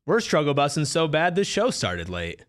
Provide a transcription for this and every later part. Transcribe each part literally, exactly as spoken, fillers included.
We're struggle busting so bad this show started late.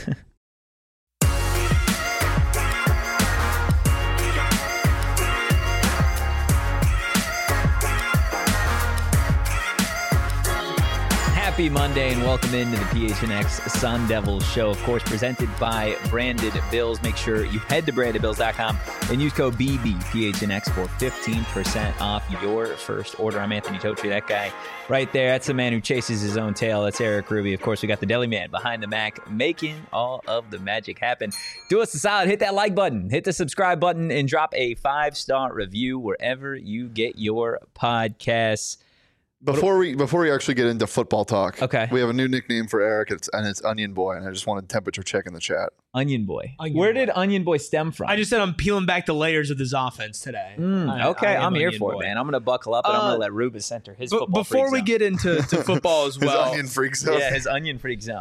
Happy Monday and welcome into the P H N X Sun Devils show, of course, presented by Branded Bills. Make sure you head to branded bills dot com and use code B B P H N X for fifteen percent off your first order. I'm Anthony Totri, that guy right there. That's the man who chases his own tail. That's Eric Ruby. Of course, we got the deli man behind the Mac making all of the magic happen. Do us a solid, hit that like button, hit the subscribe button, and drop a five-star review wherever you get your podcasts. Before we before we actually get into football talk, okay, we have a new nickname for Eric, it's, and it's Onion Boy, and I just wanted temperature check in the chat. Onion Boy. Onion Where Boy. did Onion Boy stem from? I just said I'm peeling back the layers of this offense today. Mm, I, okay, I I'm here Onion for Boy. it, man. I'm going to buckle up, and Uh, I'm going to let Rubens center his b- football Before freak we zone. get into to football as well. His Onion Freak Zone. Yeah, his Onion Freak zone.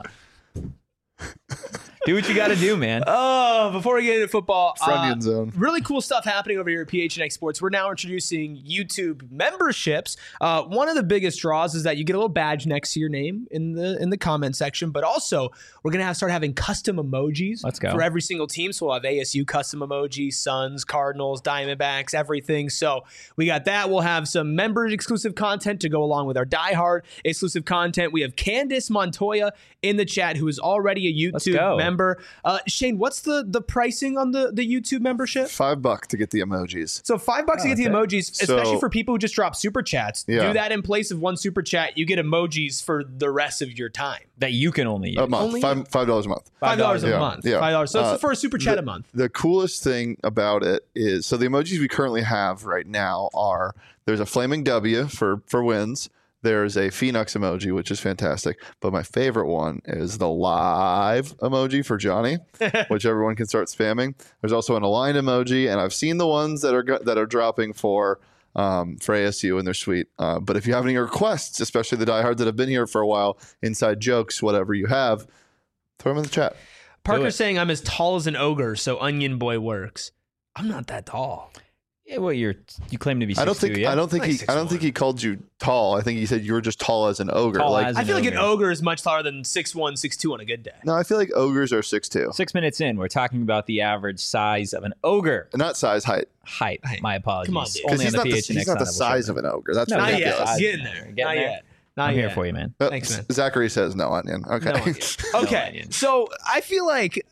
Do what you got to do, man. Oh, before we get into football, uh, Onion Zone. really cool stuff happening over here at P H N X Sports. We're now introducing YouTube memberships. Uh, one of the biggest draws is that you get a little badge next to your name in the in the comment section, but also we're gonna have start having custom emojis. Let's go. For every single team. So we'll have A S U custom emojis, Suns, Cardinals, Diamondbacks, everything. So we got that. We'll have some member exclusive content to go along with our diehard exclusive content. We have Candace Montoya in the chat, who is already a Let's YouTube go. member. Uh, Shane, what's the the pricing on the, the YouTube membership? Five bucks to get the emojis. So five bucks Oh, to get the okay. emojis, especially So- for people who just drop super chats. Yeah. Do that in place of one super chat. You get emojis for the rest of your time. That you can only use. A month. Only- Five five dollars a month. Five dollars a Yeah, month. yeah. Five dollars. So Uh, it's for a super chat the, a month. The coolest thing about it is, so the emojis we currently have right now are, there's a flaming W for, for wins. There's a Phoenix emoji, which is fantastic. But my favorite one is the live emoji for Johnny, which everyone can start spamming. There's also an aligned emoji, and I've seen the ones that are go- that are dropping for um, for A S U, and they're sweet. Uh, but if you have any requests, especially the diehards that have been here for a while, inside jokes, whatever you have, throw them in the chat. Parker's saying I'm as tall as an ogre, so Onion Boy works. I'm not that tall. Yeah, well, you're you claim to be six I don't think two, yeah? I don't think Like he six I don't one. think he called you tall. I think he said you were just tall as an ogre. Tall like as- I feel like an ogre. ogre is much taller than six one, six two on a good day. no, I feel like ogres are six two. Six minutes in, we're talking about the average size of an ogre. Not size, height. Height. Height. My apologies. Come on, dude. Because Only he's on not the the, P H N X he's not the Sun Devil size show. of an ogre. That's No, Not Not yet. ridiculous. yet. Getting We're there. getting Not there. yet. Not I'm yet. here for you, man. Uh, Thanks, man. Zachary says no onion. Okay. No onion. Okay, onion. so I feel like,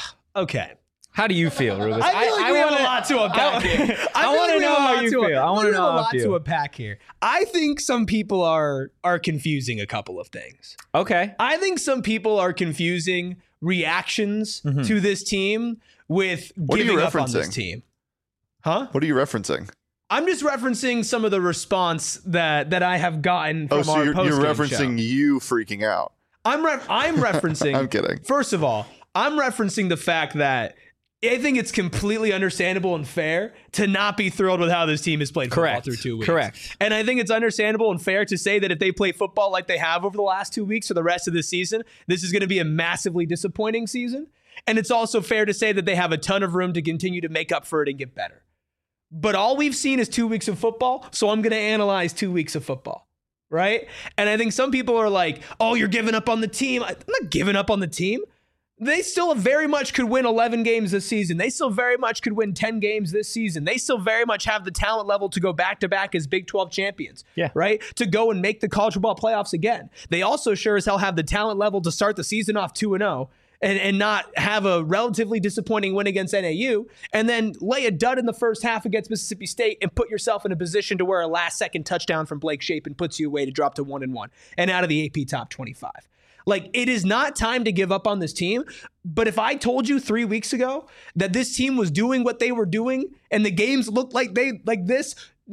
okay. How do you feel, Rubens? I feel like we have wanna- a lot to unpack I- here. I feel wanna like we know have a how lot you to- feel. I wanna we have know a how I lot feel. to unpack here. I think some people are are confusing a couple of things. Okay. I think some people are confusing reactions Mhm. to this team with What are you giving up on this referencing? team. Huh? What are you referencing? I'm just referencing some of the response that that I have gotten from Oh, so our you're, you're post-game referencing show. you freaking out. I'm ref- I'm referencing. I'm kidding. First of all, I'm referencing the fact that I think it's completely understandable and fair to not be thrilled with how this team has played football Correct. through two weeks. Correct. And I think it's understandable and fair to say that if they play football like they have over the last two weeks for the rest of the season, this is going to be a massively disappointing season. And it's also fair to say that they have a ton of room to continue to make up for it and get better. But all we've seen is two weeks of football, so I'm going to analyze two weeks of football. Right? And I think some people are like, oh, you're giving up on the team. I'm not giving up on the team. They still very much could win eleven games this season. They still very much could win ten games this season. They still very much have the talent level to go back to back as Big twelve champions. Yeah. Right? To go and make the college football playoffs again. They also sure as hell have the talent level to start the season off two and oh and, and not have a relatively disappointing win against N A U and then lay a dud in the first half against Mississippi State and put yourself in a position to where a last second touchdown from Blake Shapen puts you away to drop to one and one and out of the A P top twenty-five. Like, it is not time to give up on this team. But if I told you three weeks ago that this team was doing what they were doing and the games looked like they like this,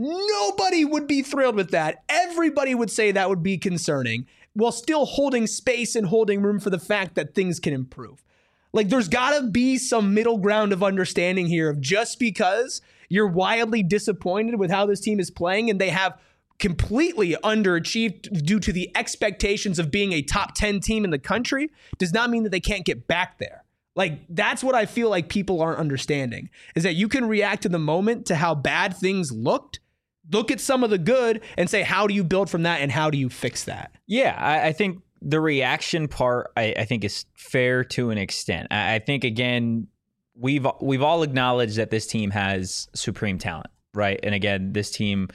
nobody would be thrilled with that. Everybody would say that would be concerning while still holding space and holding room for the fact that things can improve. Like, there's got to be some middle ground of understanding here of just because you're wildly disappointed with how this team is playing and they have completely underachieved due to the expectations of being a top ten team in the country does not mean that they can't get back there. Like, that's what I feel like people aren't understanding, is that you can react to the moment to how bad things looked, look at some of the good and say, how do you build from that and how do you fix that? Yeah, I, I think the reaction part, I, I think, is fair to an extent. I, I think, again, we've we've all acknowledged that this team has supreme talent, right? And again, this team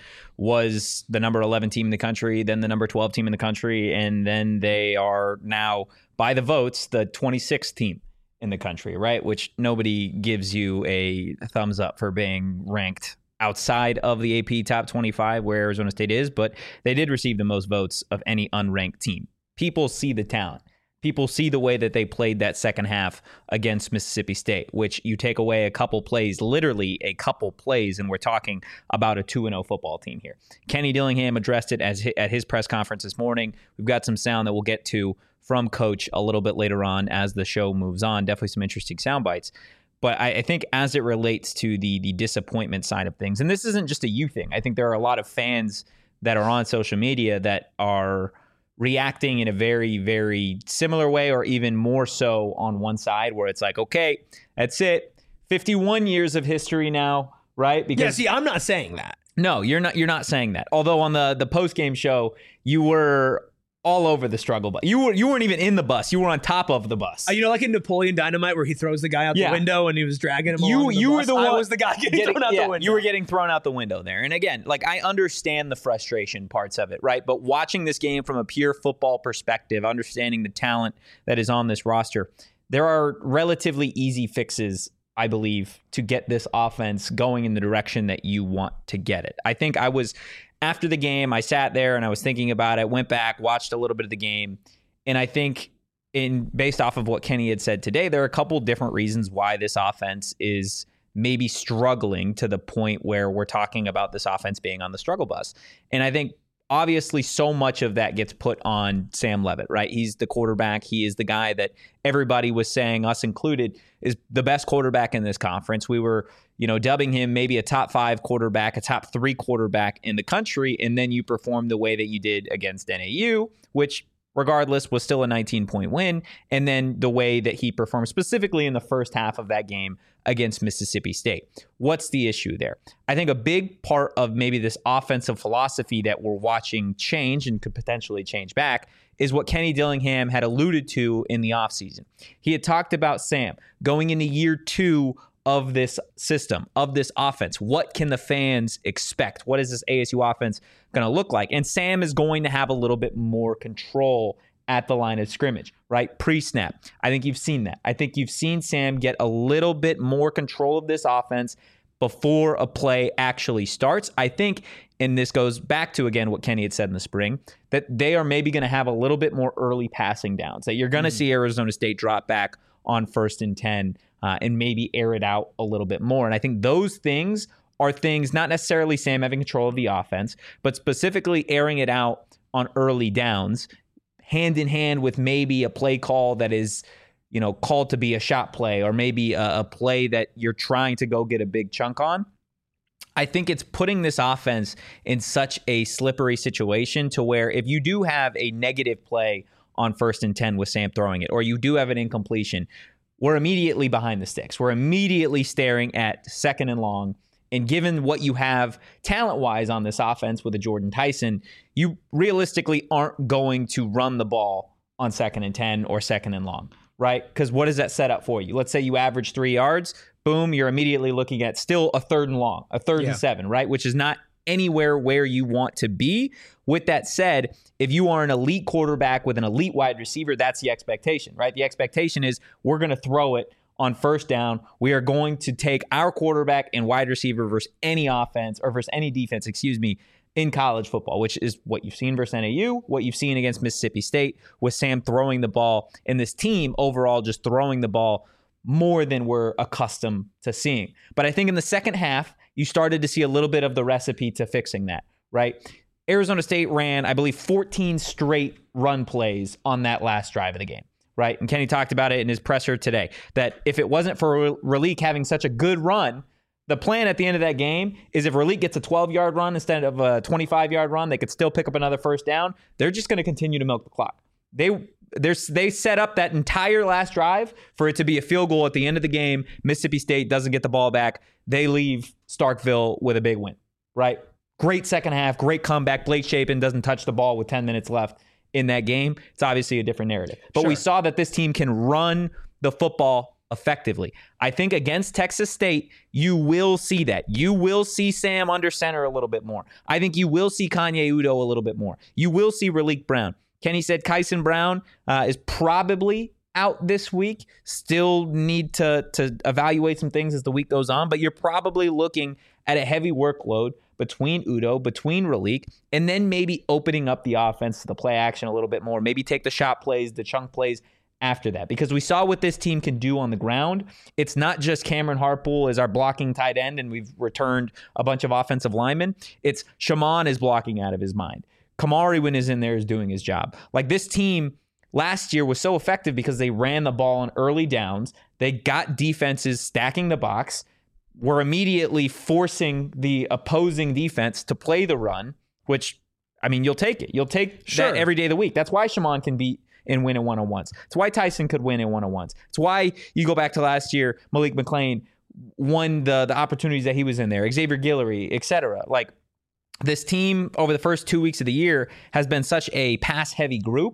was the number eleven team in the country, then the number twelve team in the country, and then they are now, by the votes, the twenty-sixth team in the country, right? Which nobody gives you a thumbs up for being ranked outside of the A P top twenty-five where Arizona State is, but they did receive the most votes of any unranked team. People see the talent. People see the way that they played that second half against Mississippi State, which you take away a couple plays, literally a couple plays, and we're talking about a two and oh football team here. Kenny Dillingham addressed it as at his press conference this morning. We've got some sound that we'll get to from Coach a little bit later on as the show moves on. Definitely some interesting sound bites. But I, I think as it relates to the the disappointment side of things, and this isn't just a you thing. I think there are a lot of fans that are on social media that are reacting in a very, very similar way, or even more so on one side, where it's like, okay, that's it. fifty-one years of history now, right? Because, yeah, see, I'm not saying that. No, you're not. You're not saying that. Although on the the post game show, you were all over the struggle bus. You were you weren't even in the bus. You were on top of the bus. Uh, you know, like in Napoleon Dynamite, where he throws the guy out yeah. the window and he was dragging him. You along the you bus. were the one. I was the guy getting, getting thrown out yeah, the window. You were getting thrown out the window there. And again, like, I understand the frustration parts of it, right? But watching this game from a pure football perspective, understanding the talent that is on this roster, there are relatively easy fixes, I believe, to get this offense going in the direction that you want to get it. I think I was, after the game, I sat there and I was thinking about it, went back, watched a little bit of the game. And I think, in based off of what Kenny had said today, there are a couple different reasons why this offense is maybe struggling to the point where we're talking about this offense being on the struggle bus. And I think obviously so much of that gets put on Sam Leavitt, right? He's the quarterback. He is the guy that everybody was saying, us included, is the best quarterback in this conference. We were, you know, dubbing him maybe a top five quarterback, a top three quarterback in the country. And then you perform the way that you did against N A U, which regardless was still a nineteen point win. And then the way that he performed specifically in the first half of that game against Mississippi State. What's the issue there? I think a big part of maybe this offensive philosophy that we're watching change and could potentially change back is what Kenny Dillingham had alluded to in the offseason. He had talked about Sam going into year two of this system, of this offense. What can the fans expect? What is this A S U offense going to look like? And Sam is going to have a little bit more control at the line of scrimmage, right? Pre-snap. I think you've seen that. I think you've seen Sam get a little bit more control of this offense before a play actually starts. I think, and this goes back to, again, what Kenny had said in the spring, that they are maybe going to have a little bit more early passing downs, that you're going to mm-hmm. see Arizona State drop back on first and ten uh, and maybe air it out a little bit more. And I think those things are things, not necessarily Sam having control of the offense, but specifically airing it out on early downs, hand in hand with maybe a play call that is, you know, called to be a shot play, or maybe a, a play that you're trying to go get a big chunk on. I think it's putting this offense in such a slippery situation to where if you do have a negative play on first and ten with Sam throwing it, or you do have an incompletion, we're immediately behind the sticks. We're immediately staring at second and long. And given what you have talent-wise on this offense with a Jordan Tyson, you realistically aren't going to run the ball on second and ten or second and long, right? Because what does that set up for you? Let's say you average three yards. Boom, you're immediately looking at still a third and long, a third yeah. and seven, right? Which is not anywhere where you want to be. With that said, if you are an elite quarterback with an elite wide receiver, that's the expectation, right? The expectation is we're going to throw it on first down. We are going to take our quarterback and wide receiver versus any offense or versus any defense, excuse me, in college football, which is what you've seen versus N A U, what you've seen against Mississippi State with Sam throwing the ball, and this team overall just throwing the ball more than we're accustomed to seeing. But I think in the second half, you started to see a little bit of the recipe to fixing that, right? Arizona State ran, I believe, fourteen straight run plays on that last drive of the game, right? And Kenny talked about it in his presser today, that if it wasn't for Raleek having such a good run, the plan at the end of that game is if Raleek gets a twelve-yard run instead of a twenty-five-yard run, they could still pick up another first down. They're just going to continue to milk the clock. They they set up that entire last drive for it to be a field goal at the end of the game. Mississippi State doesn't get the ball back. They leave Starkville with a big win, right? Great second half, great comeback. Blake Shapen doesn't touch the ball with ten minutes left in that game, it's obviously a different narrative. But Sure. we saw that this team can run the football effectively. I think against Texas State, you will see that. You will see Sam under center a little bit more. I think you will see Kanye Udoh a little bit more. You will see Raleek Brown. Kenny said Kyson Brown uh, is probably out this week. Still need to, to evaluate some things as the week goes on, but you're probably looking at a heavy workload between Udoh, between Raleek, and then maybe opening up the offense to the play action a little bit more. Maybe take the shot plays, the chunk plays after that, because we saw what this team can do on the ground. It's not just Cameron Harpool as our blocking tight end, and we've returned a bunch of offensive linemen. It's Shaman is blocking out of his mind. Kamari, when is in there, is doing his job. Like, this team last year was so effective because they ran the ball on early downs. They got defenses stacking the box, were immediately forcing the opposing defense to play the run, which, I mean, you'll take it. You'll take Sure. that every day of the week. That's why Shaman can beat and win in one-on-ones. It's why Tyson could win in one-on-ones. It's why you go back to last year, Malik McClain won the, the opportunities that he was in there, Xavier Guillory, et cetera. Like, this team over the first two weeks of the year has been such a pass-heavy group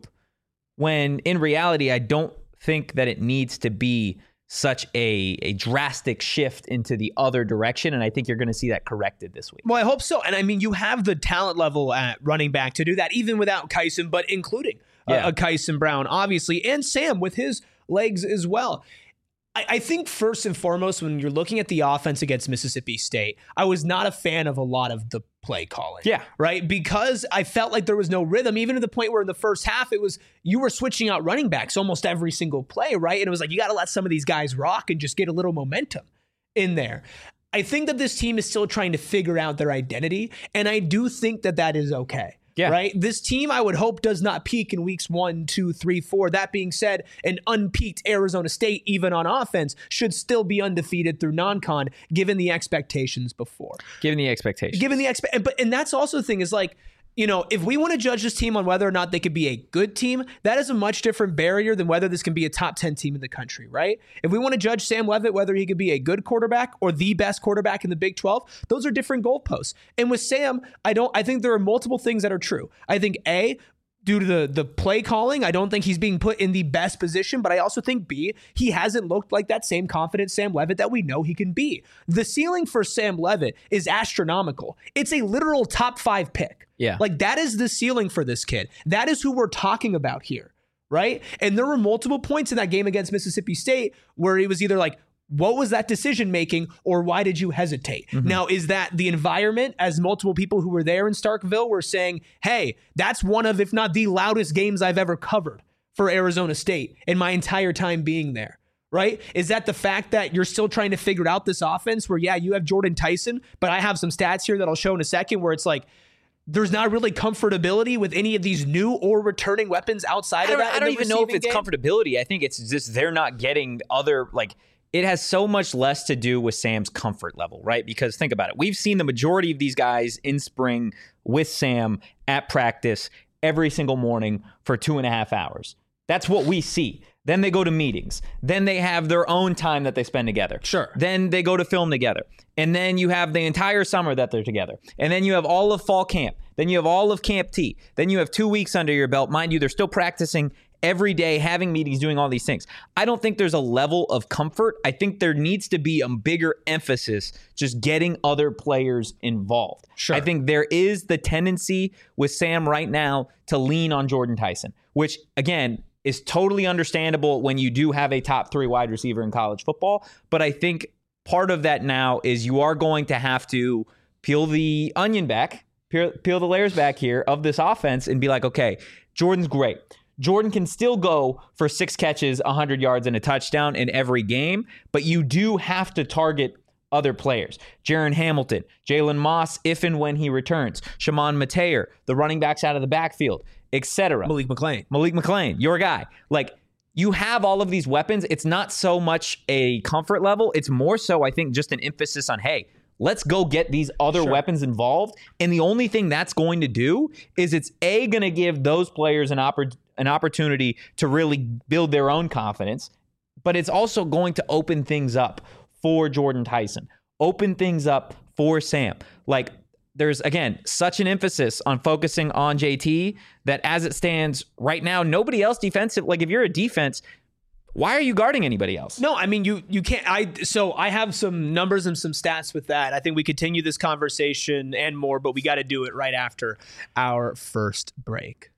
when in reality, I don't think that it needs to be such a, a drastic shift into the other direction. And I think you're going to see that corrected this week. Well, I hope so. And I mean, you have the talent level at running back to do that, even without Kyson, but including Yeah. uh, a Kyson Brown, obviously, and Sam with his legs as well. I, I think first and foremost, when you're looking at the offense against Mississippi State, I was not a fan of a lot of the play calling. Yeah. Right? Because I felt like there was no rhythm, even to the point where in the first half, it was, you were switching out running backs almost every single play, right? And it was like, you got to let some of these guys rock and just get a little momentum in there. I think that this team is still trying to figure out their identity, and I do think that that is okay. Yeah. Right. This team, I would hope, does not peak in weeks one, two, three, four. That being said, an unpeaked Arizona State, even on offense, should still be undefeated through non-con, given the expectations before. Given the expectations. Given the expect, but and that's also the thing is like, you know, if we want to judge this team on whether or not they could be a good team, that is a much different barrier than whether this can be a top ten team in the country, right? If we want to judge Sam Leavitt, whether he could be a good quarterback or the best quarterback in the Big twelve, those are different goalposts. And with Sam, I don't, I think there are multiple things that are true. I think A, due to the, the play calling, I don't think he's being put in the best position, but I also think B, he hasn't looked like that same confident Sam Leavitt that we know he can be. The ceiling for Sam Leavitt is astronomical. It's a literal top five pick. Yeah. Like, that is the ceiling for this kid. That is who we're talking about here, right? And there were multiple points in that game against Mississippi State where he was either like, what was that decision making, or why did you hesitate? Mm-hmm. Now, is that the environment, as multiple people who were there in Starkville were saying, hey, that's one of, if not the loudest games I've ever covered for Arizona State in my entire time being there, right? Is that the fact that you're still trying to figure out this offense where, yeah, you have Jordan Tyson, but I have some stats here that I'll show in a second where it's like, there's not really comfortability with any of these new or returning weapons outside I of don't, that. I don't even know if it's game. comfortability. I think it's just they're not getting other, like, it has so much less to do with Sam's comfort level, right? Because think about it. We've seen the majority of these guys in spring with Sam at practice every single morning for two and a half hours. That's what we see. Then they go to meetings. Then they have their own time that they spend together. Sure. Then they go to film together. And then you have the entire summer that they're together. And then you have all of fall camp. Then you have all of Camp T. Then you have two weeks under your belt. Mind you, they're still practicing every day, having meetings, doing all these things. I don't think there's a level of comfort. I think there needs to be a bigger emphasis just getting other players involved. Sure. I think there is the tendency with Sam right now to lean on Jordan Tyson, which, again, is totally understandable when you do have a top three wide receiver in college football. But I think part of that now is you are going to have to peel the onion back, peel, peel the layers back here of this offense and be like, okay, Jordan's great. Jordan can still go for six catches, one hundred yards, and a touchdown in every game, but you do have to target other players. Jaron Hamilton, Jalen Moss, if and when he returns, Shaman Mateer, the running backs out of the backfield, et cetera. Malik McClain. Malik McClain, your guy. Like, you have all of these weapons. It's not so much a comfort level. It's more so, I think, just an emphasis on, hey, let's go get these other Sure. weapons involved. And the only thing that's going to do is it's A, going to give those players an, oppor- an opportunity to really build their own confidence, but it's also going to open things up for Jordan Tyson, open things up for Sam. Like, there's, again, such an emphasis on focusing on J T that as it stands right now, nobody else defensive. Like if you're a defense, why are you guarding anybody else? No, I mean, you you can't. I So I have some numbers and some stats with that. I think we continue this conversation and more, but we got to do it right after our first break.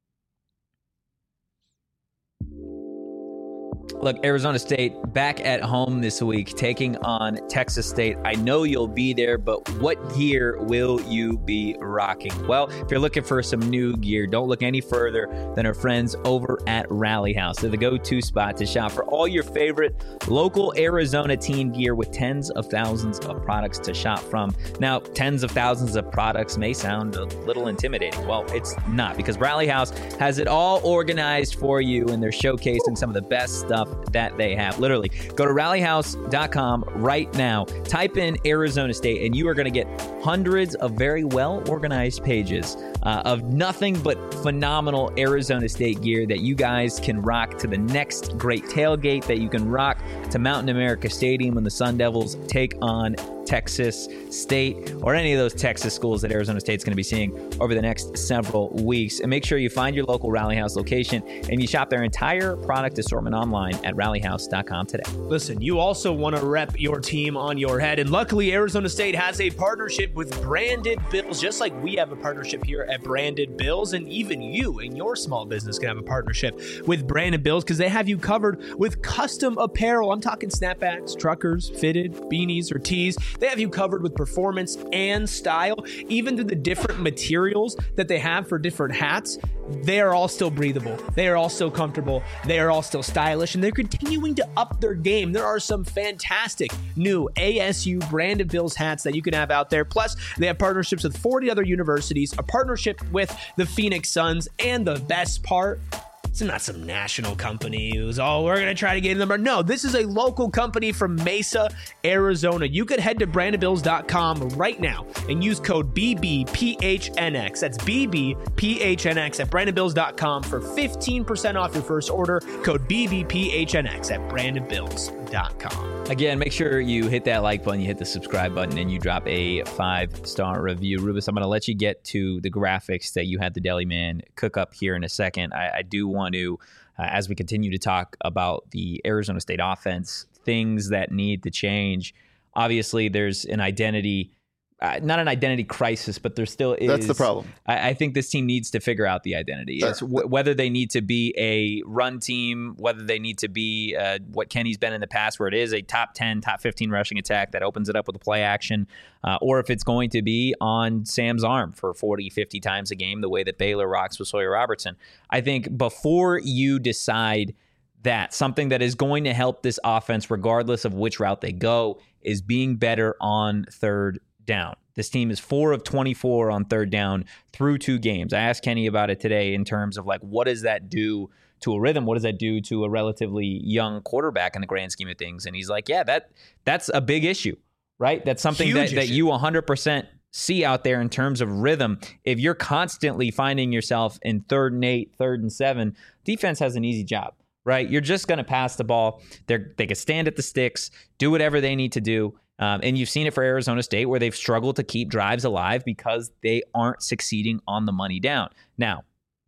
Look, Arizona State back at home this week, taking on Texas State. I know you'll be there, but what gear will you be rocking? Well, if you're looking for some new gear, don't look any further than our friends over at Rally House. They're the go-to spot to shop for all your favorite local Arizona team gear with tens of thousands of products to shop from. Now, tens of thousands of products may sound a little intimidating. Well, it's not, because Rally House has it all organized for you, and they're showcasing some of the best stuff that they have. Literally, go to rally house dot com right now, type in Arizona State, and you are going to get hundreds of very well organized pages uh, of nothing but phenomenal Arizona State gear that you guys can rock to the next great tailgate, that you can rock to Mountain America Stadium when the Sun Devils take on Texas State, or any of those Texas schools that Arizona State's going to be seeing over the next several weeks. And make sure you find your local Rally House location and you shop their entire product assortment online at rally house dot com today. Listen, you also want to rep your team on your head, and luckily Arizona State has a partnership with Branded Bills, just like we have a partnership here at Branded Bills, and even you and your small business can have a partnership with Branded Bills because they have you covered with custom apparel. I'm talking snapbacks, truckers, fitted, beanies, or tees. They have you covered with performance and style, even to the different materials that they have for different hats. They are all still breathable. They are all still comfortable. They are all still stylish, and they're continuing to up their game. There are some fantastic new A S U Branded Bills hats that you can have out there. Plus, they have partnerships with forty other universities, a partnership with the Phoenix Suns, and the best part, it's not some national company who's, oh, we're going to try to get in them. No, this is a local company from Mesa, Arizona. You could head to branded bills dot com right now and use code B B P H N X. That's B B P H N X at branded bills dot com for fifteen percent off your first order. Code B B P H N X at branded bills dot com. Again, make sure you hit that like button, you hit the subscribe button, and you drop a five-star review. Rubus, I'm going to let you get to the graphics that you had the Deli Man cook up here in a second. I, I do want to, uh, as we continue to talk about the Arizona State offense, things that need to change. Obviously, there's an identity Uh, not an identity crisis, but there still is. That's the problem. I, I think this team needs to figure out the identity. It's w- whether they need to be a run team, whether they need to be uh, what Kenny's been in the past, where it is a top ten, top fifteen rushing attack that opens it up with a play action, uh, or if it's going to be on Sam's arm for forty, fifty times a game, the way that Baylor rocks with Sawyer Robertson. I think before you decide that, something that is going to help this offense, regardless of which route they go, is being better on third down. This team is four of twenty-four on third down through two games. I asked Kenny about it today in terms of like, what does that do to a rhythm? What does that do to a relatively young quarterback in the grand scheme of things? And he's like, yeah, that that's a big issue, right? That's something that, that you one hundred percent see out there in terms of rhythm. If you're constantly finding yourself in third and eight, third and seven, defense has an easy job, right? You're just going to pass the ball. They're, they can stand at the sticks, do whatever they need to do. Um, and you've seen it for Arizona State, where they've struggled to keep drives alive because they aren't succeeding on the money down. Now,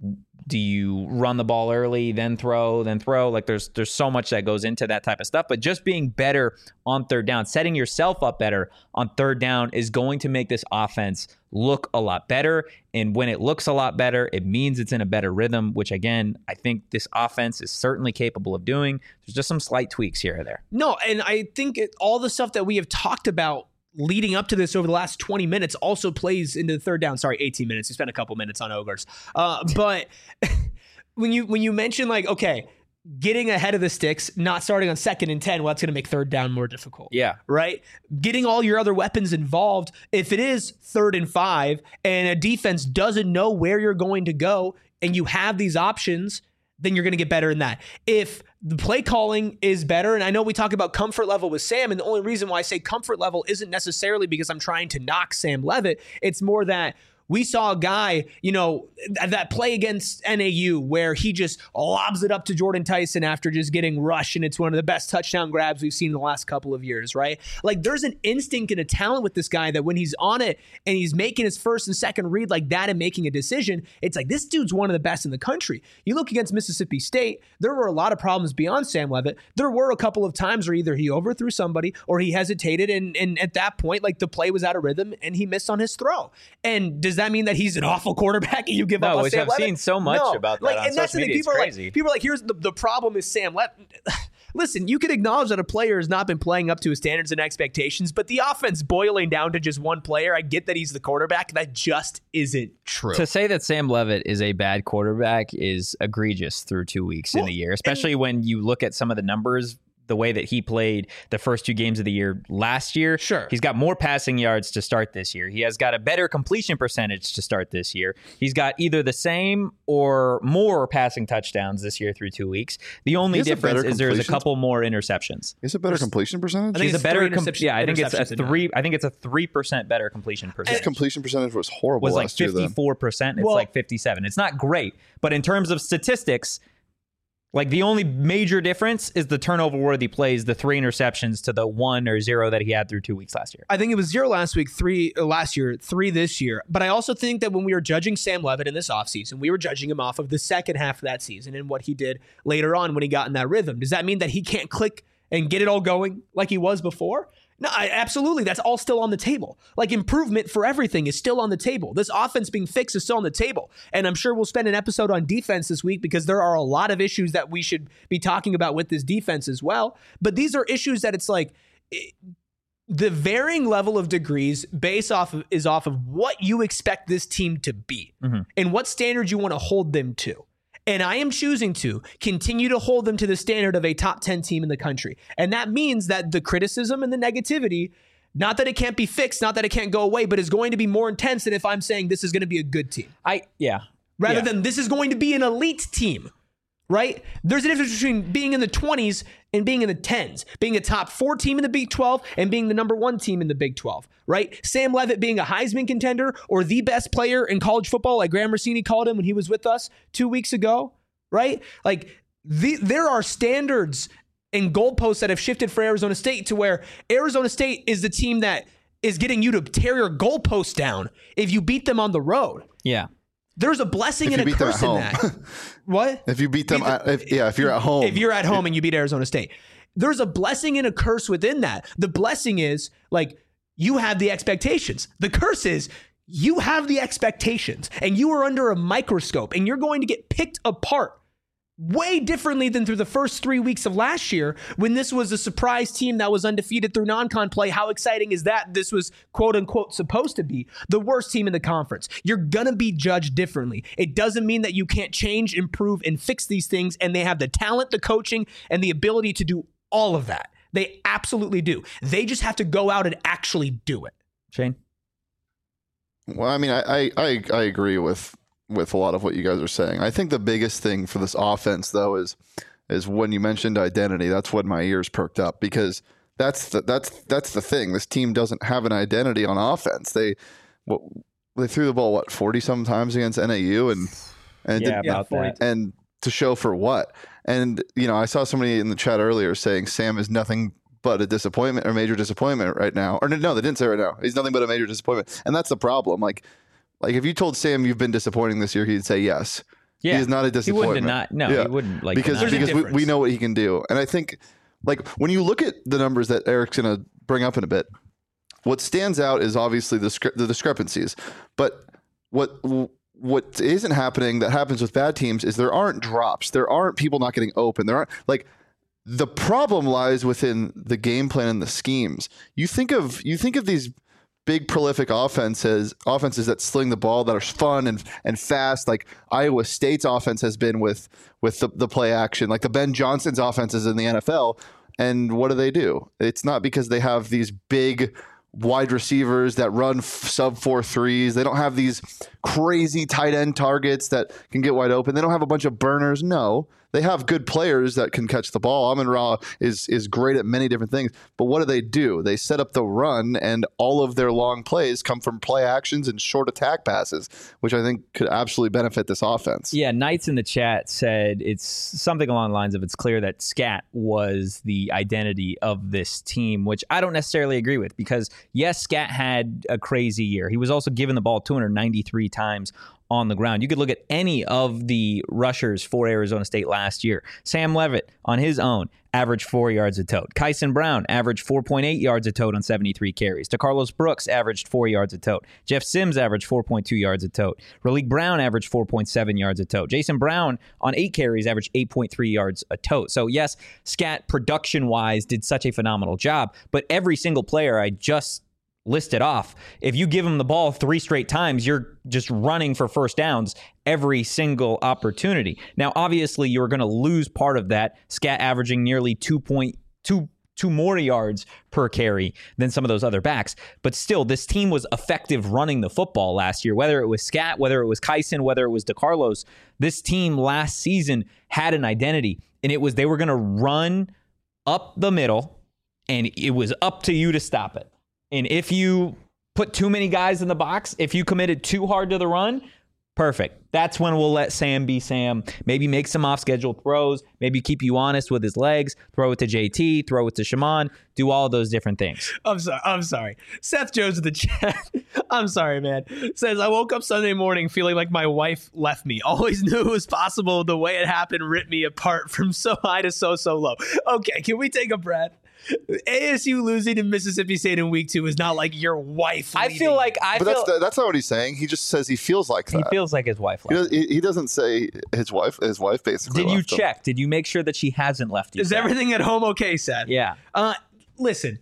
do you run the ball early, then throw, then throw? Like there's there's so much that goes into that type of stuff. But just being better on third down, setting yourself up better on third down is going to make this offense look a lot better. And when it looks a lot better, it means it's in a better rhythm, which again, I think this offense is certainly capable of doing. There's just some slight tweaks here or there. No, and I think it, all the stuff that we have talked about leading up to this over the last twenty minutes also plays into the third down. Sorry, eighteen minutes. We spent a couple minutes on Ogres. Uh, but when you when you mention like, okay, getting ahead of the sticks, not starting on second and ten, well, that's going to make third down more difficult. Yeah. Right? Getting all your other weapons involved. If it is third and five and a defense doesn't know where you're going to go and you have these options, then you're going to get better in that. If the play calling is better, and I know we talk about comfort level with Sam, and the only reason why I say comfort level isn't necessarily because I'm trying to knock Sam Leavitt. It's more that We saw a guy, you know, that play against N A U where he just lobs it up to Jordan Tyson after just getting rushed, and it's one of the best touchdown grabs we've seen in the last couple of years, right? Like, there's an instinct and a talent with this guy that when he's on it and he's making his first and second read like that and making a decision, it's like, this dude's one of the best in the country. You look against Mississippi State, there were a lot of problems beyond Sam Leavitt. There were a couple of times where either he overthrew somebody or he hesitated, and, and at that point, like, the play was out of rhythm and he missed on his throw. And does that mean that he's an awful quarterback and you give no, up on which Sam I've Leavitt? seen so much no. about that like, on and that's social the thing. media. People it's are crazy. like, people are like, here's the, the problem is Sam Leavitt. Listen, you can acknowledge that a player has not been playing up to his standards and expectations, but the offense boiling down to just one player, I get that he's the quarterback. That just isn't true. To say that Sam Leavitt is a bad quarterback is egregious through two weeks well, in the year, especially and, when you look at some of the numbers, the way that he played the first two games of the year last year. Sure. He's got more passing yards to start this year. He has got a better completion percentage to start this year. He's got either the same or more passing touchdowns this year through two weeks. The only difference is there's a couple more interceptions. Is it better completion percentage? I think He's it's a better, three com- yeah. I think it's a interceptions three. I think it's a three percent better completion percentage. His completion percentage was horrible was like last year. fifty-four percent. It's Well- like fifty-seven. It's not great, but in terms of statistics, like, the only major difference is the turnover-worthy plays, the three interceptions to the one or zero that he had through two weeks last year. I think it was zero last week, three uh, last year, three this year. But I also think that when we were judging Sam Leavitt in this offseason, we were judging him off of the second half of that season and what he did later on when he got in that rhythm. Does that mean that he can't click and get it all going like he was before? No, I, absolutely. That's all still on the table. Like, improvement for everything is still on the table. This offense being fixed is still on the table. And I'm sure we'll spend an episode on defense this week because there are a lot of issues that we should be talking about with this defense as well. But these are issues that it's like it, the varying level of degrees based off of, is off of what you expect this team to be mm-hmm. and what standards you want to hold them to. And I am choosing to continue to hold them to the standard of a top ten team in the country. And that means that the criticism and the negativity, not that it can't be fixed, not that it can't go away, but is going to be more intense than if I'm saying this is going to be a good team. I yeah. Rather yeah. than this is going to be an elite team, right? There's a difference between being in the twenties and being in the tens, being a top four team in the Big twelve and being the number one team in the Big twelve, right? Sam Leavitt being a Heisman contender or the best player in college football, like Graham Rossini called him when he was with us two weeks ago, right? Like, the, there are standards and goalposts that have shifted for Arizona State to where Arizona State is the team that is getting you to tear your goalposts down if you beat them on the road. Yeah. There's a blessing and a curse in that. What? If you beat them, Beat the, if, yeah, if you're at home. If you're at home and you beat Arizona State. There's a blessing and a curse within that. The blessing is, like, you have the expectations. The curse is you have the expectations and you are under a microscope and you're going to get picked apart way differently than through the first three weeks of last year when this was a surprise team that was undefeated through non-con play. How exciting is that? This was quote unquote supposed to be the worst team in the conference. You're going to be judged differently. It doesn't mean that you can't change, improve, and fix these things. And they have the talent, the coaching, and the ability to do all of that. They absolutely do. They just have to go out and actually do it. Shane? Well, I mean, I, I, I agree with with a lot of what you guys are saying. I think the biggest thing for this offense, though, is is when you mentioned identity. That's when my ears perked up because that's the, that's that's the thing. This team doesn't have an identity on offense. They what, they threw the ball what forty some times against N A U and and yeah, did, about that. And to show for what? And you know, I saw somebody in the chat earlier saying Sam is nothing but a disappointment or major disappointment right now. Or no, they didn't say right now. He's nothing but a major disappointment, and that's the problem. Like. Like, if you told Sam you've been disappointing this year, he'd say yes. Yeah. He is not a disappointment. He wouldn't deny. No, yeah. he wouldn't. Like because deny. because we, we know what he can do. And I think, like, when you look at the numbers that Eric's going to bring up in a bit, what stands out is obviously the, the discrepancies. But what what isn't happening that happens with bad teams is there aren't drops. There aren't people not getting open. There aren't, like, the problem lies within the game plan and the schemes. You think of you think of these big prolific offenses, offenses that sling the ball, that are fun and and fast, like Iowa State's offense has been with with the, the play action, like the Ben Johnson's offenses in the N F L. And what do they do? It's not because they have these big wide receivers that run f- sub four threes. They don't have these crazy tight end targets that can get wide open. They don't have a bunch of burners. No, they they have good players that can catch the ball. Amon-Ra is is great at many different things, but what do they do? They set up the run, and all of their long plays come from play actions and short attack passes, which I think could absolutely benefit this offense. Yeah, Knights in the chat said it's something along the lines of it's clear that Scat was the identity of this team, which I don't necessarily agree with, because yes, Scat had a crazy year. He was also given the ball two hundred ninety-three times on the ground. You could look at any of the rushers for Arizona State last year. Sam Levitt, on his own, averaged four yards a tote. Kyson Brown averaged four point eight yards a tote on seventy-three carries. DeCarlos Brooks averaged four yards a tote. Jeff Sims averaged four point two yards a tote. Raleek Brown averaged four point seven yards a tote. Jason Brown, on eight carries, averaged eight point three yards a tote. So yes, Scat production-wise did such a phenomenal job, but every single player I just listed off, if you give them the ball three straight times, you're just running for first downs every single opportunity. Now, obviously, you're going to lose part of that. Scat averaging nearly two point two two more yards per carry than some of those other backs. But still, this team was effective running the football last year, whether it was Scat, whether it was Kyson, whether it was DeCarlos. This team last season had an identity, and it was they were going to run up the middle, and it was up to you to stop it. And if you put too many guys in the box, if you committed too hard to the run, perfect. That's when we'll let Sam be Sam. Maybe make some off-schedule throws. Maybe keep you honest with his legs. Throw it to J T. Throw it to Shaman. Do all those different things. I'm sorry. I'm sorry. Seth Jones in the chat. I'm sorry, man. Says, I woke up Sunday morning feeling like my wife left me. Always knew it was possible. The way it happened ripped me apart from so high to so, so low. Okay, can we take a breath? A S U losing to Mississippi State in week two is not like your wife I leaving. feel like I but feel that's the, that's not what he's saying. He just says he feels like that. he feels like his wife He, left. does, he, he doesn't say his wife. His wife basically. Did you left him. check? Did you make sure that she hasn't left you? Is Seth? everything at home okay, Seth? Yeah. Uh, listen,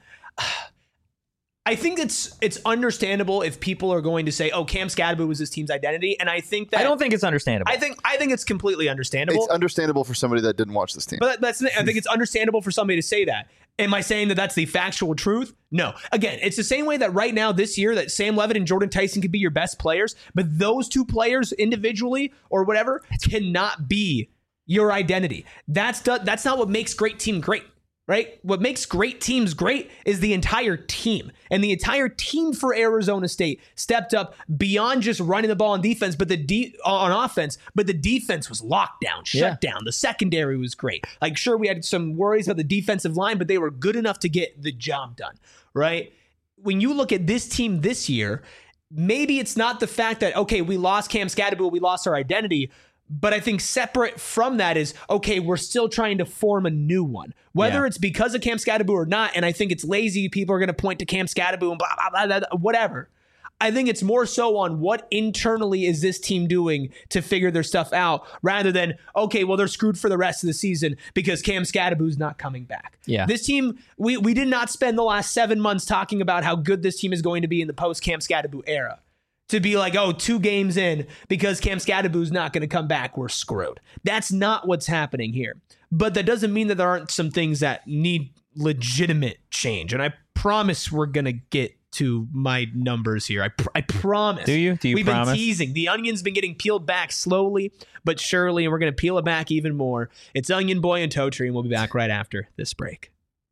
I think it's it's understandable if people are going to say, "Oh, Cam Skattebo was this team's identity," and I think that I don't think it's understandable. I think I think it's completely understandable. It's understandable for somebody that didn't watch this team. But that's I think it's understandable for somebody to say that. Am I saying that that's the factual truth? No. Again, it's the same way that right now this year that Sam Levitt and Jordan Tyson could be your best players, but those two players individually or whatever cannot be your identity. That's that's not what makes great team great. Right? What makes great teams great is the entire team. And the entire team for Arizona State stepped up beyond just running the ball on defense, but the de- on offense, but the defense was locked down, shut Yeah. down. The secondary was great. Like, sure, we had some worries about the defensive line, but they were good enough to get the job done, right? When you look at this team this year, maybe it's not the fact that, okay, we lost Cam Skattebo, we lost our identity. But I think separate from that is, okay, we're still trying to form a new one. Whether Yeah. it's because of Cam Skattebo or not, and I think it's lazy, people are going to point to Cam Skattebo and blah, blah, blah, blah, blah, whatever. I think it's more so on what internally is this team doing to figure their stuff out, rather than, okay, well, they're screwed for the rest of the season because Cam Skattebo's not coming back. Yeah. This team, we, we did not spend the last seven months talking about how good this team is going to be in the post-Cam Skattebo era. To be like, oh, two games in, because Cam Skattebo's not going to come back, we're screwed. That's not what's happening here. But that doesn't mean that there aren't some things that need legitimate change. And I promise we're going to get to my numbers here. I, pr- I promise. Do you? Do you We've promise? been teasing. The onion's been getting peeled back slowly but surely, and we're going to peel it back even more. It's Onion Boy and Toe Tree, and we'll be back right after this break.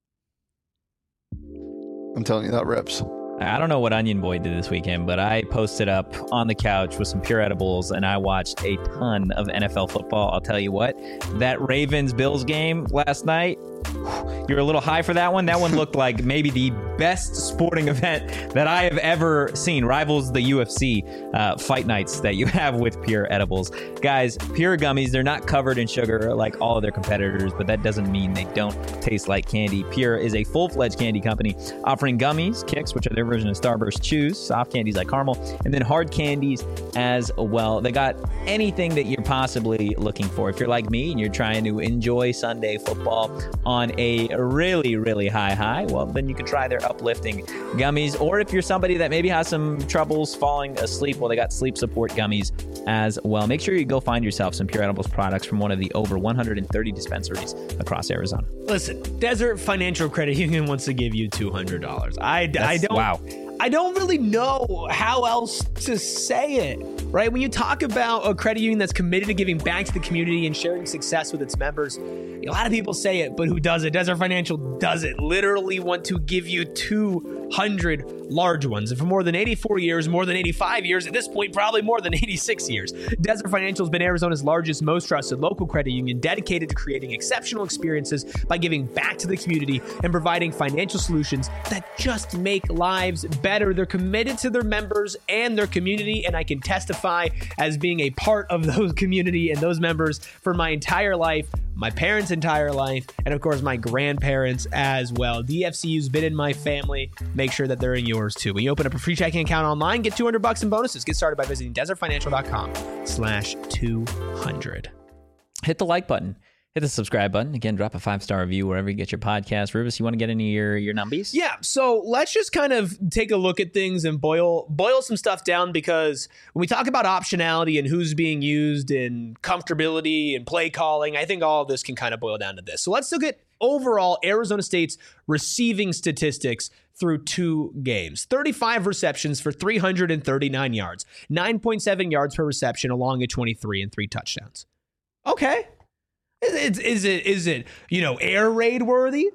I'm telling you, that rips. I don't know what Onion Boy did this weekend, but I posted up on the couch with some pure edibles and I watched a ton of N F L football. I'll tell you what, that Ravens-Bills game last night, you're a little high for that one. That one looked like maybe the best sporting event that I have ever seen. Rivals the U F C uh, fight nights that you have with Pure Edibles. Guys, Pure Gummies, they're not covered in sugar like all of their competitors, but that doesn't mean they don't taste like candy. Pure is a full-fledged candy company offering gummies, kicks, which are their version of Starburst chews, soft candies like caramel, and then hard candies as well. They got anything that you're possibly looking for. If you're like me and you're trying to enjoy Sunday football on a really, really high high, well, then you can try their uplifting gummies. Or if you're somebody that maybe has some troubles falling asleep, well, they got sleep support gummies as well. Make sure you go find yourself some Pure Edibles products from one of the over one hundred thirty dispensaries across Arizona. Listen, Desert Financial Credit Union wants to give you two hundred dollars. I, I don't Wow. I don't really know how else to say it. right? When you talk about a credit union that's committed to giving back to the community and sharing success with its members, a lot of people say it, but who does it? Desert Financial does it. Literally want to give you two hundred large ones. And for more than eighty-four years, more than eighty-five years, at this point, probably more than eighty-six years, Desert Financial has been Arizona's largest, most trusted local credit union, dedicated to creating exceptional experiences by giving back to the community and providing financial solutions that just make lives better. They're committed to their members and their community, and I can testify as being a part of those community and those members for my entire life, my parents' entire life, and of course my grandparents as well. D F C U's been in my family. Make sure that they're in yours too. When you open up a free checking account online, get two hundred bucks in bonuses. Get started by visiting desertfinancial.com slash 200. Hit the like button. Hit the subscribe button. Again, drop a five-star review wherever you get your podcast. Rivas, you want to get into your, your numbies? Yeah, so let's just kind of take a look at things and boil boil some stuff down, because when we talk about optionality and who's being used and comfortability and play calling, I think all of this can kind of boil down to this. So let's look at overall Arizona State's receiving statistics through two games. thirty-five receptions for three hundred thirty-nine yards, nine point seven yards per reception, along at twenty-three and three touchdowns. Okay. Is, is it is it you know air raid worthy?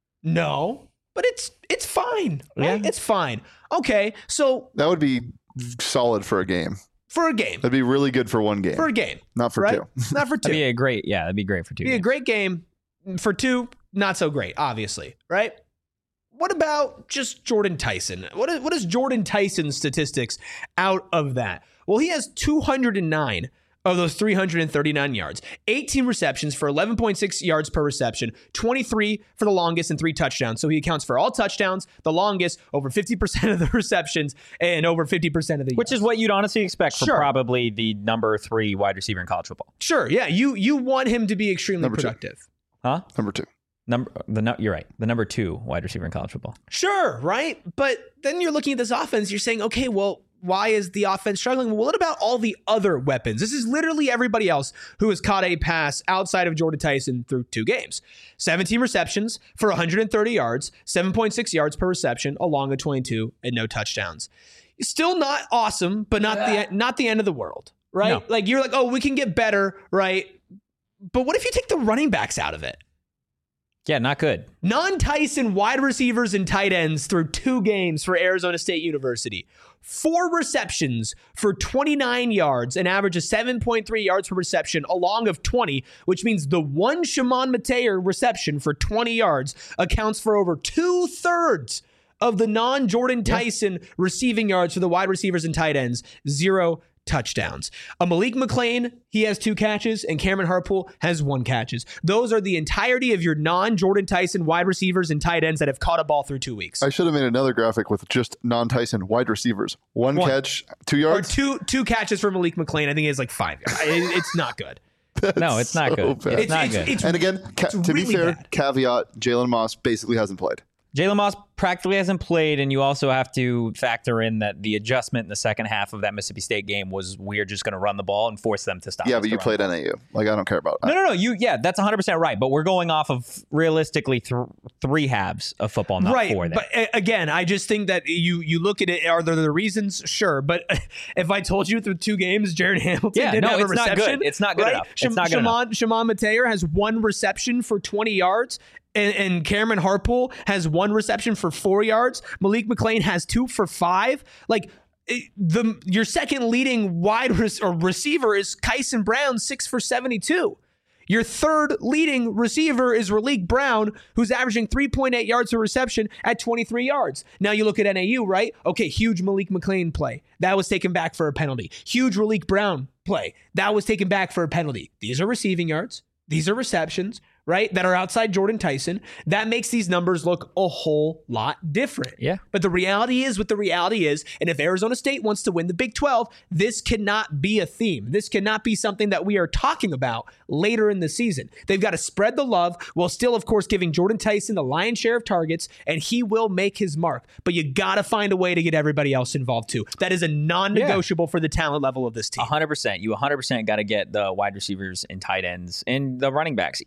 No, but it's it's fine. Right? Yeah. It's fine. Okay, so That would be solid for a game. for a game, That'd be really good for one game. for a game, Not for right? two. Not for two. That'd be a great, yeah, that'd be great for two. Be a games. great game. For two, not so great, obviously, right? What about just Jordan Tyson? What is, what is Jordan Tyson's statistics out of that? Well, he has two hundred nine of those three hundred thirty-nine yards, eighteen receptions for eleven point six yards per reception, twenty-three for the longest, and three touchdowns. So he accounts for all touchdowns, the longest, over fifty percent of the receptions, and over fifty percent of the Which yards. is what you'd honestly expect for Sure. probably the number three wide receiver in college football. Sure, yeah, you you want him to be extremely Number two. productive. Huh? Number two. Number the no, you're right. The number two wide receiver in college football. Sure, right? But then you're looking at this offense, you're saying, okay, well, why is the offense struggling? Well, what about all the other weapons? This is literally everybody else who has caught a pass outside of Jordan Tyson through two games. seventeen receptions for one hundred thirty yards, seven point six yards per reception, along with twenty-two and no touchdowns. Still not awesome, but not the not the end of the world, right? No. Like you're like, oh, we can get better, right? But what if you take the running backs out of it? Yeah, not good. Non-Tyson wide receivers and tight ends through two games for Arizona State University. Four receptions for twenty-nine yards, an average of seven point three yards per reception, along of twenty, which means the one Shimon Mateer reception for twenty yards accounts for over two-thirds of the non-Jordan Tyson receiving yards for the wide receivers and tight ends. Zero touchdowns. A Malik McClain, he has two catches, and Cameron Harpool has one catches. Those are the entirety of your non-Jordan Tyson wide receivers and tight ends that have caught a ball through two weeks. I should have made another graphic with just non-Tyson wide receivers. One, One. catch, two Or yards. two two catches for Malik McClain. I think he has like five yards. It- It's not good. No, it's not so good. bad. It's not good. It's, and again, ca- it's to be really fair, bad. caveat, Jalen Moss basically hasn't played. Jalen Moss practically hasn't played, and you also have to factor in that the adjustment in the second half of that Mississippi State game was we're just going to run the ball and force them to stop. Yeah, us but to you run played the ball. N A U. Like, I don't care about that. No, no, no. You, yeah, that's one hundred percent right. But we're going off of realistically th- three halves of football, not right, four. There. but uh, again, I just think that you you look at it. Are there the reasons? Sure, but if I told you through two games, Jared Hamilton Yeah, didn't no, have a it's not reception, good. It's not good right? enough. It's Shim- not good Shimon, Shimon Mateer has one reception for twenty yards. And, and Cameron Harpool has one reception for four yards. Malik McClain has two for five. Like it, the your second leading wide res- or receiver is Kyson Brown, six for seventy-two. Your third leading receiver is Raleek Brown, who's averaging three point eight yards per reception at twenty-three yards. Now you look at N A U, right? Okay, huge Malik McClain play. That was taken back for a penalty. Huge Raleek Brown play. That was taken back for a penalty. These are receiving yards. These are receptions, right, that are outside Jordan Tyson. That makes these numbers look a whole lot different. Yeah. But the reality is what the reality is. And if Arizona State wants to win the Big twelve, this cannot be a theme. This cannot be something that we are talking about later in the season. They've got to spread the love while still, of course, giving Jordan Tyson the lion's share of targets, and he will make his mark. But you got to find a way to get everybody else involved too. That is a non-negotiable yeah. for the talent level of this team. one hundred percent. You one hundred percent got to get the wide receivers and tight ends and the running backs even more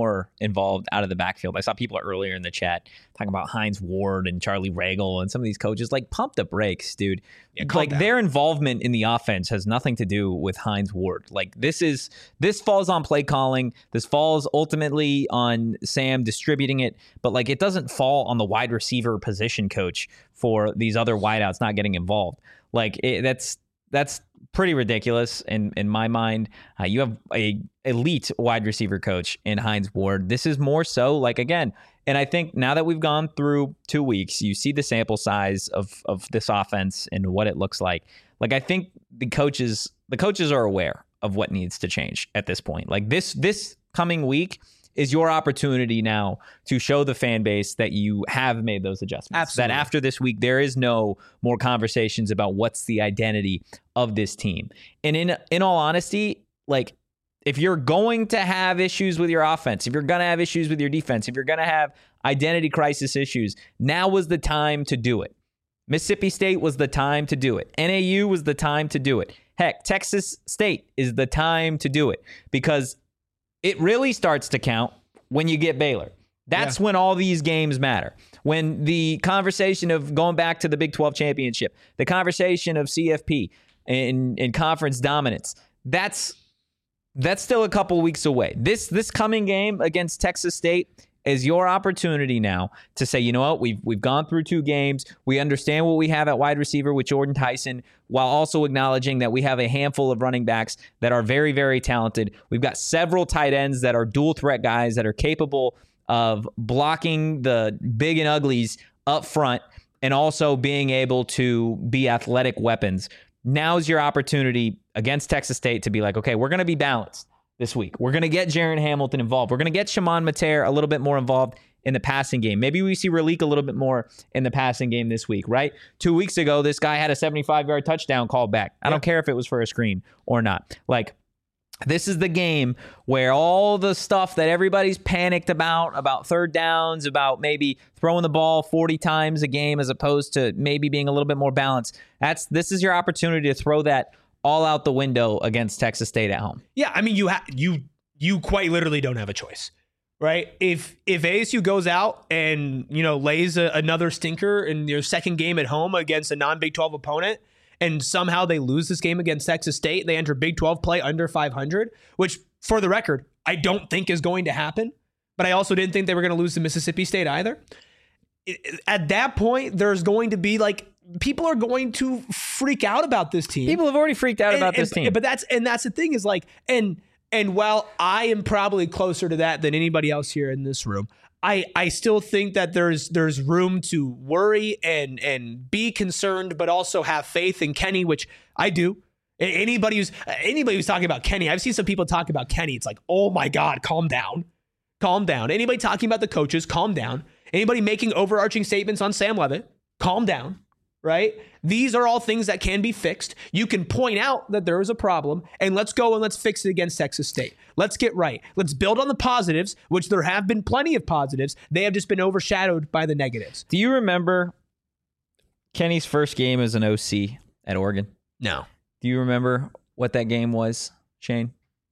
more involved out of the backfield. I saw people earlier in the chat talking about Hines Ward and Charlie Ragle and some of these coaches. Like, pump the brakes, dude. Yeah, calm like down. Their involvement in the offense has nothing to do with Hines Ward. Like this is this falls on play calling. This falls ultimately on Sam distributing it, but like it doesn't fall on the wide receiver position coach for these other wideouts not getting involved. Like it, that's that's pretty ridiculous in in my mind. Uh, you have a elite wide receiver coach in Hines Ward. This is more so like again. And I think now that we've gone through two weeks, you see the sample size of of this offense and what it looks like. Like I think the coaches, the coaches are aware of what needs to change at this point. Like this this coming week is your opportunity now to show the fan base that you have made those adjustments. Absolutely. That after this week, there is no more conversations about what's the identity of this team. And in in all honesty, like if you're going to have issues with your offense, if you're going to have issues with your defense, if you're going to have identity crisis issues, now was the time to do it. Mississippi State was the time to do it. N A U was the time to do it. Heck, Texas State is the time to do it because it really starts to count when you get Baylor. That's yeah. when all these games matter. When the conversation of going back to the Big twelve championship, the conversation of C F P and, and conference dominance, that's That's still a couple weeks away. This this coming game against Texas State is your opportunity now to say, you know what, we've we've gone through two games. We understand what we have at wide receiver with Jordan Tyson, while also acknowledging that we have a handful of running backs that are very, very talented. We've got several tight ends that are dual threat guys that are capable of blocking the big and uglies up front and also being able to be athletic weapons. Now's your opportunity against Texas State to be like, okay, we're going to be balanced this week. We're going to get Jaron Hamilton involved. We're going to get Shimon Mater a little bit more involved in the passing game. Maybe we see Raleek a little bit more in the passing game this week, right? Two weeks ago, this guy had a seventy-five-yard touchdown called back. I don't care if it was for a screen or not. Like, this is the game where all the stuff that everybody's panicked about, about third downs, about maybe throwing the ball forty times a game as opposed to maybe being a little bit more balanced. That's this is your opportunity to throw that all out the window against Texas State at home. Yeah, I mean, you ha- you you quite literally don't have a choice, right? If if A S U goes out and, you know, lays a, another stinker in their second game at home against a non-Big twelve opponent, and somehow they lose this game against Texas State, they enter Big twelve play under five hundred, which, for the record, I don't think is going to happen. But I also didn't think they were going to lose to Mississippi State either. At that point, there's going to be like, people are going to freak out about this team. People have already freaked out and, about this and, team. But that's and that's the thing is like, and and while I am probably closer to that than anybody else here in this room, I, I still think that there's there's room to worry and and be concerned, but also have faith in Kenny, which I do. Anybody who's anybody who's talking about Kenny, I've seen some people talk about Kenny. It's like, oh my God, calm down, calm down. Anybody talking about the coaches, calm down. Anybody making overarching statements on Sam Leavitt, calm down. Right? These are all things that can be fixed. You can point out that there is a problem, and let's go and let's fix it against Texas State. Let's get right. Let's build on the positives, which there have been plenty of positives. They have just been overshadowed by the negatives. Do you remember Kenny's first game as an O C at Oregon? No. Do you remember what that game was, Shane?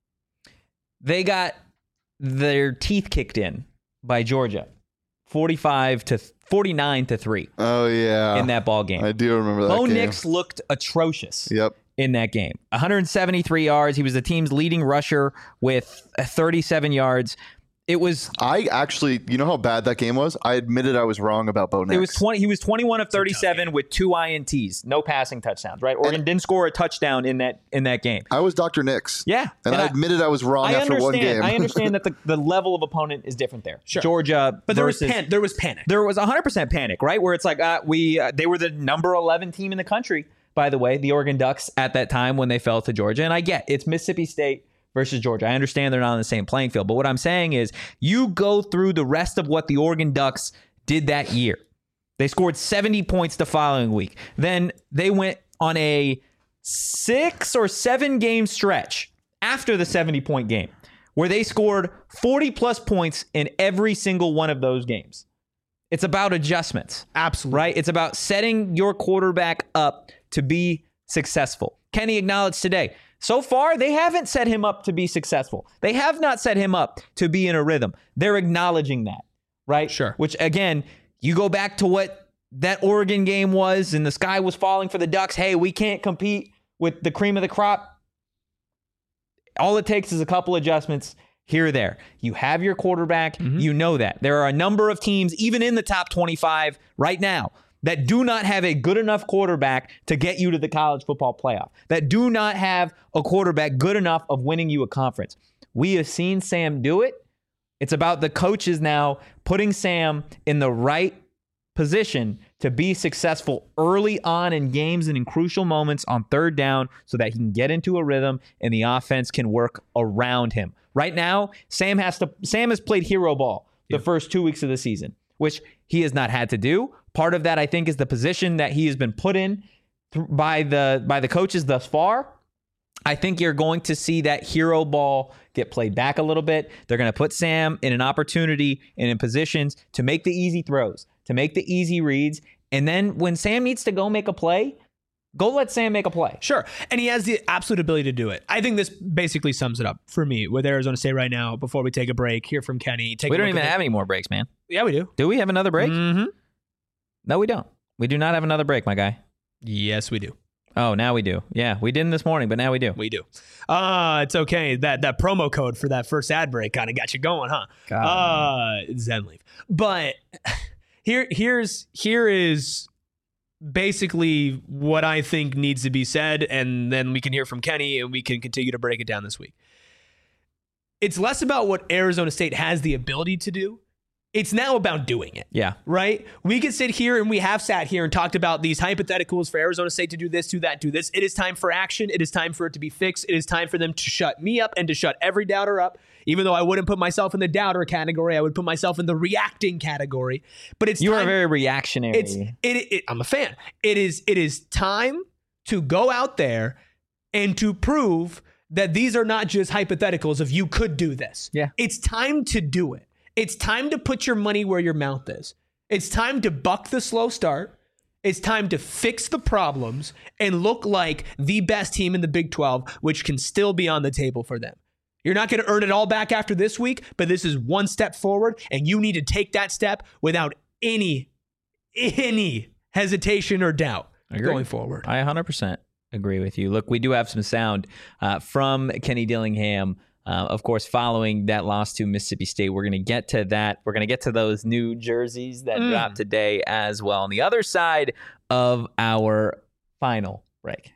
They got their teeth kicked in by Georgia, forty-five to forty-nine to three. Oh yeah, in that ball game. I do remember that. Bo game. Nix looked atrocious. Yep. In that game, one hundred seventy-three yards. He was the team's leading rusher with thirty-seven yards. It was. I actually, you know how bad that game was? I admitted I was wrong about Bo Nix. It was twenty. He was twenty-one of thirty-seven with two I N Ts, no passing touchdowns. Right? Oregon and didn't score a touchdown in that in that game. I was Doctor Nix. Yeah, and, and I, I admitted I was wrong I after one game. I understand that the, the level of opponent is different there. Sure. Georgia, but there versus, was pan- there was panic. There was one hundred percent panic. Right? Where it's like uh, we uh, they were the number eleven team in the country. By the way, the Oregon Ducks at that time when they fell to Georgia, and I get it's Mississippi State versus Georgia. I understand they're not on the same playing field, but what I'm saying is you go through the rest of what the Oregon Ducks did that year. They scored seventy points the following week. Then they went on a six or seven game stretch after the seventy-point game where they scored forty plus points in every single one of those games. It's about adjustments. Absolutely. Right? It's about setting your quarterback up to be successful. Kenny acknowledged today, So far, they haven't set him up to be successful. They have not set him up to be in a rhythm. They're acknowledging that, right? Sure. Which, again, you go back to what that Oregon game was, and the sky was falling for the Ducks. Hey, we can't compete with the cream of the crop. All it takes is a couple adjustments here or there. You have your quarterback. Mm-hmm. You know that. There are a number of teams, even in the top twenty-five right now, that do not have a good enough quarterback to get you to the college football playoff, that do not have a quarterback good enough of winning you a conference. We have seen Sam do it. It's about the coaches now putting Sam in the right position to be successful early on in games and in crucial moments on third down so that he can get into a rhythm and the offense can work around him. Right now, Sam has to Sam has played hero ball the yeah. first two weeks of the season, which he has not had to do. Part of that, I think, is the position that he has been put in th- by the by the coaches thus far. I think you're going to see that hero ball get played back a little bit. They're going to put Sam in an opportunity and in positions to make the easy throws, to make the easy reads. And then when Sam needs to go make a play, go let Sam make a play. Sure. And he has the absolute ability to do it. I think this basically sums it up for me with Arizona State right now. Before we take a break, hear from Kenny. Take we don't even have any more breaks, man. Yeah, we do. Do we have another break? Mm-hmm. No, we don't. We do not have another break, my guy. Yes, we do. Oh, now we do. Yeah, we didn't this morning, but now we do. We do. Uh, it's okay. That that promo code for that first ad break kind of got you going, huh? God, uh, Zenleaf. But here, here's here is basically what I think needs to be said, and then we can hear from Kenny, and we can continue to break it down this week. It's less about what Arizona State has the ability to do. It's now about doing it. Yeah. Right? We can sit here and we have sat here and talked about these hypotheticals for Arizona State to do this, do that, do this. It is time for action. It is time for it to be fixed. It is time for them to shut me up and to shut every doubter up. Even though I wouldn't put myself in the doubter category, I would put myself in the reacting category. But it's you time, are very reactionary. It's it, it. I'm a fan. It is. It is time to go out there and to prove that these are not just hypotheticals of you could do this. Yeah. It's time to do it. It's time to put your money where your mouth is. It's time to buck the slow start. It's time to fix the problems and look like the best team in the Big twelve, which can still be on the table for them. You're not going to earn it all back after this week, but this is one step forward, and you need to take that step without any, any hesitation or doubt going forward. I one hundred percent agree with you. Look, we do have some sound uh, from Kenny Dillingham. Uh, of course, following that loss to Mississippi State, we're going to get to that. We're going to get to those new jerseys that mm. dropped today as well on the other side of our final break.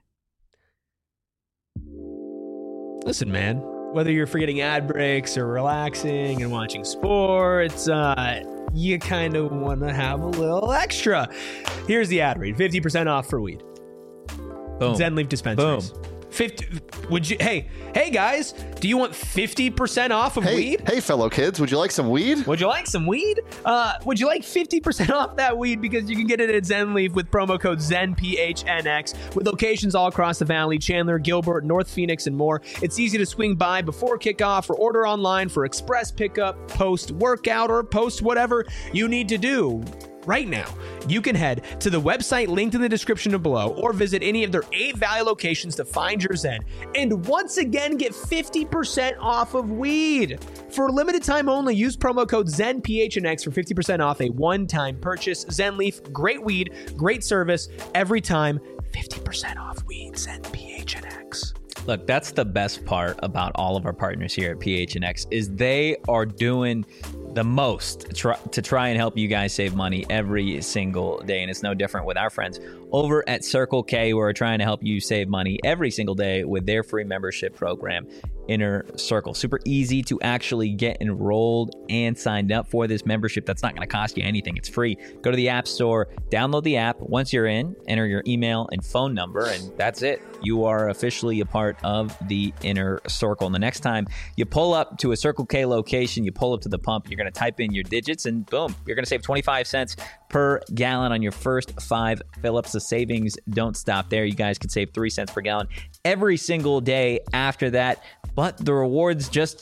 Listen, man, whether you're forgetting ad breaks or relaxing and watching sports, uh, you kind of want to have a little extra. Here's the ad read. fifty percent off for weed. Boom. Zenleaf dispensaries. Boom. fifty would you hey hey guys, do you want fifty percent off of hey, weed? Hey fellow kids, would you like some weed? Would you like some weed? Uh would you like fifty percent off that weed, because you can get it at Zenleaf with promo code Zen P H N X with locations all across the valley, Chandler, Gilbert, North Phoenix, and more. It's easy to swing by before kickoff or order online for express pickup, post workout, or post whatever you need to do. Right now, you can head to the website linked in the description below or visit any of their eight Valley locations to find your Zen. And once again, get fifty percent off of weed. For a limited time only, use promo code Zen P H N X for fifty percent off a one-time purchase. Zenleaf, great weed, great service, every time, fifty percent off weed. Zen P H N X. Look, that's the best part about all of our partners here at P H N X is they are doing the most try, to try and help you guys save money every single day. And it's no different with our friends over at Circle K, who are trying to help you save money every single day with their free membership program, Inner Circle. Super easy to actually get enrolled and signed up for this membership. That's not going to cost you anything. It's free. Go to the App Store, download the app. Once you're in, enter your email and phone number, and that's it. You are officially a part of the Inner Circle. And the next time you pull up to a Circle K location, you pull up to the pump, you're going to type in your digits, and boom, you're going to save twenty-five cents per gallon on your first five fill-ups. The savings don't stop there. You guys can save three cents per gallon every single day after that. But the rewards just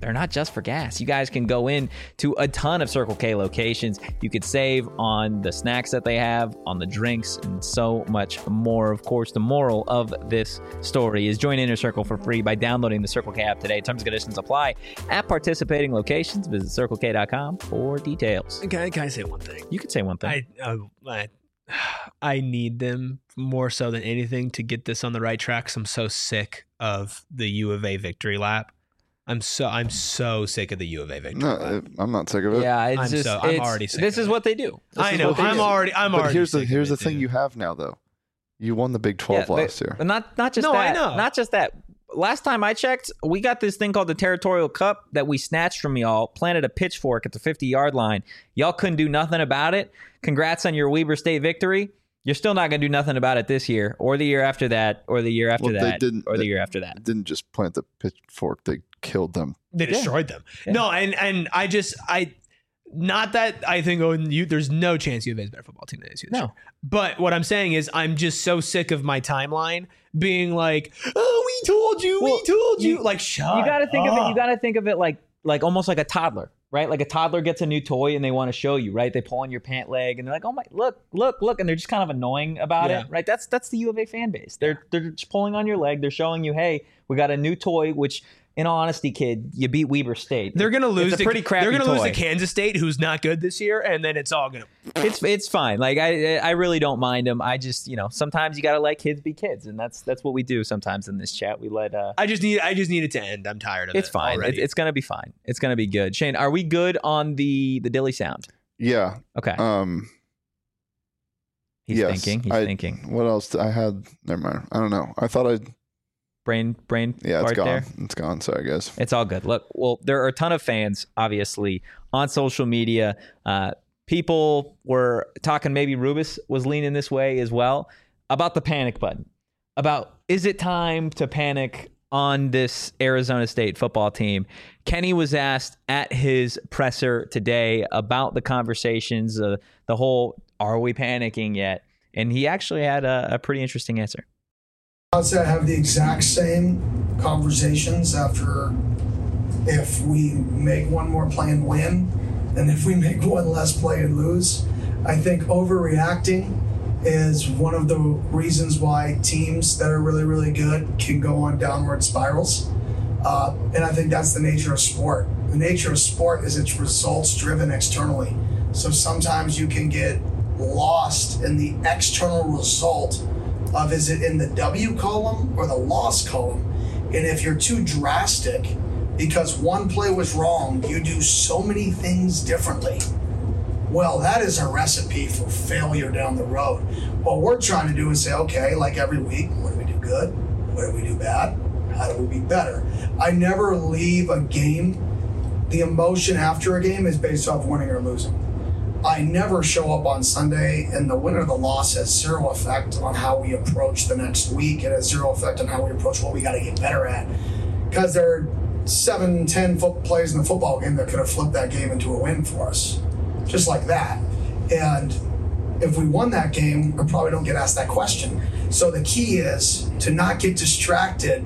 they're not just for gas. You guys can go in to a ton of Circle K locations. You could save on the snacks that they have, on the drinks, and so much more. Of course, the moral of this story is join Inner Circle for free by downloading the Circle K app today. Terms and conditions apply at participating locations. Visit circle k dot com for details. Can I, can I say one thing? You could say one thing. I, uh, I I need them more so than anything to get this on the right track. 'Cause I'm so sick of the U of A victory lap. I'm so I'm so sick of the U of A victory No, lap. I'm not sick of it. Yeah, it's I'm just so- I'm it's- already sick This of is it. what they do. This I is know. what they I'm do. already. I'm But already. here's the sick of here's it, the thing dude. you have now though. You won the Big twelve Yeah, last but- year. but Not not just No, I that. know. Not just that. Last time I checked, we got this thing called the Territorial Cup that we snatched from y'all, planted a pitchfork at the fifty-yard line. Y'all couldn't do nothing about it. Congrats on your Weber State victory. You're still not going to do nothing about it this year, or the year after that, or the year after Well, they that, didn't- or the they- year after that. Didn't just plant the pitchfork; they killed them. They Yeah. destroyed them. Yeah. No, and and I just I. Not that I think oh you there's no chance U of A is a better football team than A S U this No. year. But what I'm saying is I'm just so sick of my timeline being like, oh, we told you, Well, we told you. you- Like, shut You got to think of it. You up. got to think of it like like almost like a toddler, right? Like a toddler gets a new toy and they want to show you, right? They pull on your pant leg and they're like, "Oh my, look, look, look," and they're just kind of annoying about Yeah. it, right? That's that's the U of A fan base. They're they're just pulling on your leg. They're showing you, "Hey, we got a new toy." Which, in all honesty, kid, you beat Weber State. They're gonna lose. It's a to, pretty crappy They're gonna lose toy. to Kansas State, who's not good this year, and then it's all gonna. It's it's fine. Like I I really don't mind them. I just you know sometimes you got to let kids be kids, and that's that's what we do sometimes in this chat. We let uh. I just need. I just need it to end. I'm tired of It's it. fine. It, already. it's gonna be fine. It's gonna be good. Shane, are we good on the the Dilly sound? Yeah. Okay. Um. He's yes, thinking. He's I- thinking. What else? did- I had. Never mind. I don't know. I thought I'd. Brain brain. Yeah, it's fart gone. there. It's gone. Sorry, guys. It's all good. Look, well, there are a ton of fans, obviously, on social media. Uh, people were talking, maybe Rubus was leaning this way as well, about the panic button. About, is it time to panic on this Arizona State football team? Kenny was asked at his presser today about the conversations, uh, the whole, are we panicking yet? And he actually had a, a pretty interesting answer. I'd say I have the exact same conversations after if we make one more play and win, and if we make one less play and lose. I think overreacting is one of the reasons why teams that are really, really good can go on downward spirals. Uh, and I think that's the nature of sport. The nature of sport is it's results driven externally. So sometimes you can get lost in the external result of is it in the W column or the loss column. And if you're too drastic because one play was wrong, you do so many things differently. Well, that is a recipe for failure down the road. What we're trying to do is say, okay, like every week, what do we do good? What do we do bad? How do we be better? I never leave a game. The emotion after a game is based off winning or losing. I never show up on Sunday, and the win or the loss has zero effect on how we approach the next week. It has zero effect on how we approach what we got to get better at. Because there are seven, ten foot plays in the football game that could have flipped that game into a win for us. Just like that. And if we won that game, I probably don't get asked that question. So the key is to not get distracted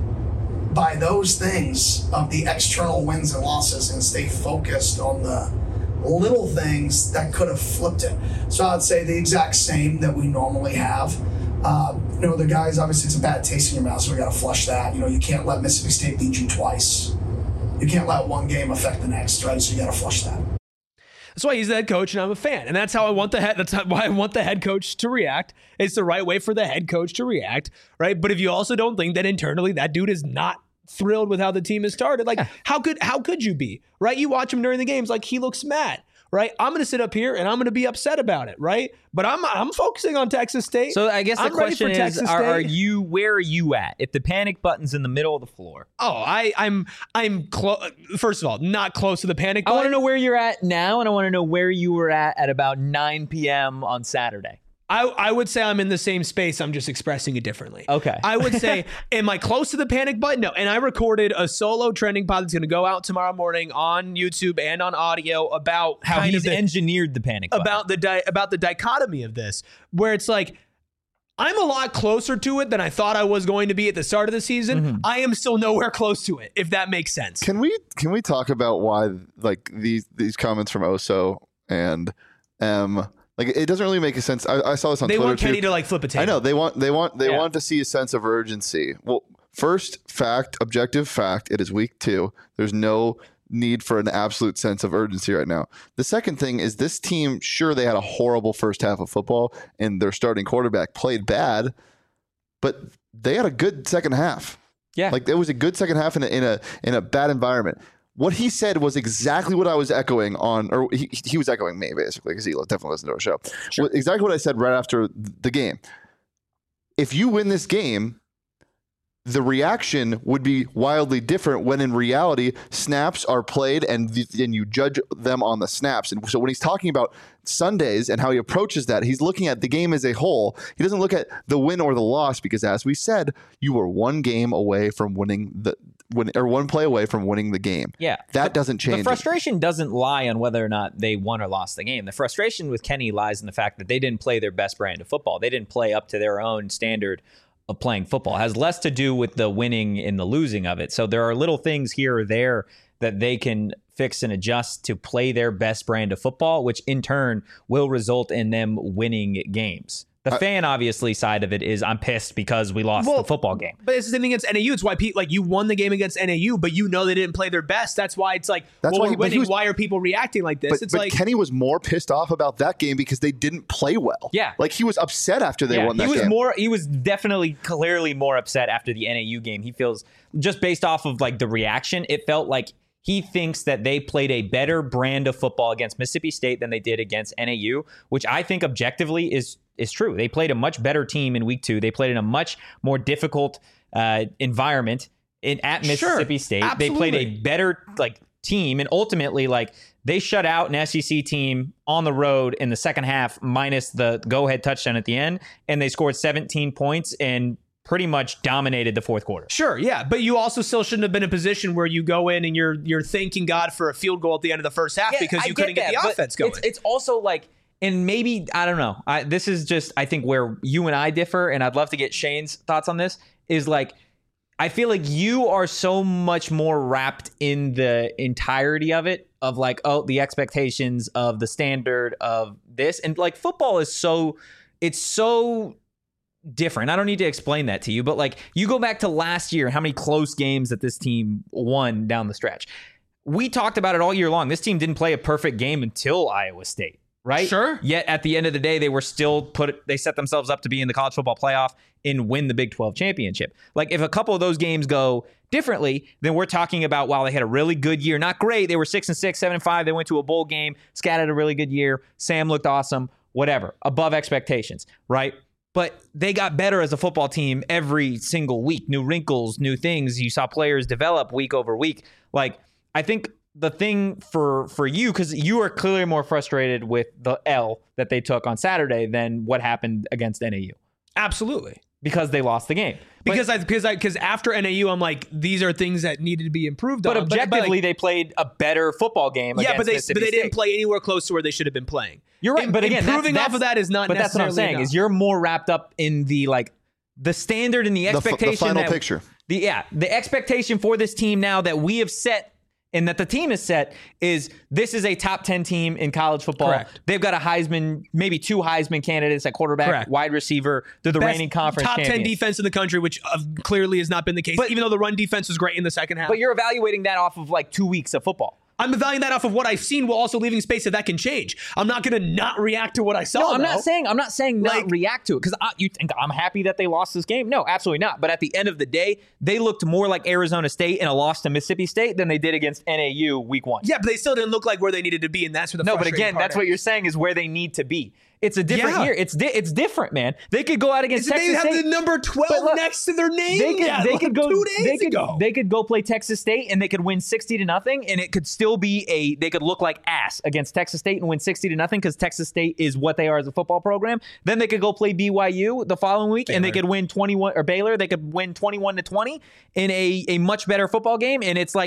by those things of the external wins and losses and stay focused on the little things that could have flipped it. So I'd say the exact same that we normally have. Uh, you know, the guys, obviously it's a bad taste in your mouth, so we got to flush that. You know, you can't let Mississippi State beat you twice. You can't let one game affect the next, right? So you got to flush that. That's why he's the head coach, and I'm a fan, and that's how I want the head. That's how, why I want the head coach to react. It's the right way for the head coach to react, right? But if you also don't think that internally that dude is not thrilled with how the team has started, like how could how could you be, right? You watch him during the games, like he looks mad, right? I'm going to sit up here and I'm going to be upset about it, right? But I'm I'm focusing on Texas State. So I guess the I'm ready question for is, Texas are, are State. you where are you at? If the panic button's in the middle of the floor, Oh, I I'm I'm close. First of all, not close to the panic I button. want to know where you're at now, and I want to know where you were at at about nine p.m. on Saturday. I, I would say I'm in the same space. I'm just expressing it differently. Okay. I would say, am I close to the panic button? No. And I recorded a solo trending pod that's going to go out tomorrow morning on YouTube and on audio about How kind he's of the, engineered the panic button. about the di- about the dichotomy of this, where it's like, I'm a lot closer to it than I thought I was going to be at the start of the season. Mm-hmm. I am still nowhere close to it, if that makes sense. Can we can we talk about why like these these comments from Oso and um like it doesn't really make a sense. I, I saw this on they Twitter. They want Kenny too. to like flip a table. I know they want they want they yeah. want to see a sense of urgency. Well, first fact, objective fact, it is week two. There's no need for an absolute sense of urgency right now. The second thing is this team, sure, they had a horrible first half of football and their starting quarterback played bad, but they had a good second half. Yeah. Like it was a good second half in a, in a, in a bad environment. What he said was exactly what I was echoing on, or he, he was echoing me basically because he definitely listened to our show. Sure. Exactly what I said right after the game. If you win this game, the reaction would be wildly different when in reality snaps are played and th- and you judge them on the snaps. And so when he's talking about Sundays and how he approaches that, he's looking at the game as a whole. He doesn't look at the win or the loss because, as we said, you were one game away from winning the win, or one play away from winning the game. Yeah. That doesn't change. The frustration it. doesn't lie on whether or not they won or lost the game. The frustration with Kenny lies in the fact that they didn't play their best brand of football. They didn't play up to their own standard of playing football. It has less to do with the winning and the losing of it. So there are little things here or there that they can fix and adjust to play their best brand of football, which in turn will result in them winning games. The uh, fan, obviously, side of it is I'm pissed because we lost well, the football game. But it's the same thing against N A U. It's why Pete, like you won the game against N A U, but you know they didn't play their best. That's why it's like, That's well, why, winning, was, why are people reacting like this? But, it's but like Kenny was more pissed off about that game because they didn't play well. Yeah, like he was upset after they yeah, won that he was game. More, he was definitely, clearly more upset after the N A U game. He feels just based off of like the reaction, it felt like he thinks that they played a better brand of football against Mississippi State than they did against N A U, which I think objectively is is true. They played a much better team in week two. They played in a much more difficult uh, environment in, at Mississippi sure, State. Absolutely. They played a better like team, and ultimately, like they shut out an S E C team on the road in the second half, minus the go-ahead touchdown at the end, and they scored seventeen points and pretty much dominated the fourth quarter. Sure, yeah, but you also still shouldn't have been in a position where you go in and you're you're thanking God for a field goal at the end of the first half yeah, because you I couldn't get, that, get the offense going. It's, it's also like, and maybe, I don't know, I, this is just, I think, where you and I differ, and I'd love to get Shane's thoughts on this, is like, I feel like you are so much more wrapped in the entirety of it, of like, oh, the expectations of the standard of this, and like football is so, it's so different. I don't need to explain that to you, but like you go back to last year, how many close games that this team won down the stretch. We talked about it all year long. This team didn't play a perfect game until Iowa State, right? Sure. Yet at the end of the day, they were still put, they set themselves up to be in the college football playoff and win the Big twelve championship. Like if a couple of those games go differently, then we're talking about, wow, they had a really good year. Not great. They were six and six, seven and five. They went to a bowl game. Scat had a really good year. Sam looked awesome, whatever, above expectations, right? But they got better as a football team every single week. New wrinkles, new things. You saw players develop week over week. Like, I think the thing for for you, because you are clearly more frustrated with the L that they took on Saturday than what happened against N A U. Absolutely. Because they lost the game. Because but, I because I because after N A U, I'm like, these are things that needed to be improved but on. Objectively, but objectively, like, they played a better football game. Yeah, against but they Mississippi but they State. didn't play anywhere close to where they should have been playing. You're right, In, but again, improving that's, off of that is not. But that's what I'm saying enough. is you're more wrapped up in the like the standard and the expectation. The, f- the final that, picture. The yeah, the expectation for this team now that we have set. And that the team is set is this is a top ten team in college football. Correct. They've got a Heisman, maybe two Heisman candidates at quarterback, Correct. wide receiver. They're the Best reigning conference top champions. ten defense in the country, which uh, clearly has not been the case, but, even though the run defense was great in the second half. But you're evaluating that off of like two weeks of football. I'm evaluating that off of what I've seen while also leaving space that that can change. I'm not going to not react to what I saw. No, I'm though. not saying I'm not saying like, not react to it because you think I'm happy that they lost this game. No, absolutely not. But at the end of the day, they looked more like Arizona State in a loss to Mississippi State than they did against N A U week one. Yeah, but they still didn't look like where they needed to be, and that's where the no. But again, that's is. what you're saying is where they need to be. It's a different yeah. year. It's di- it's different, man. They could go out against Is Texas they State. They have the number twelve look, next to their name. They could, yeah, they like could go. Two days they could, ago. They could go play Texas State and they could win sixty to nothing, and it could still be a. They could look like ass against Texas State and win sixty to nothing because Texas State is what they are as a football program. Then they could go play B Y U the following week, Baylor. and they could win twenty-one or Baylor. They could win twenty-one to twenty in a a much better football game, and it's like it's.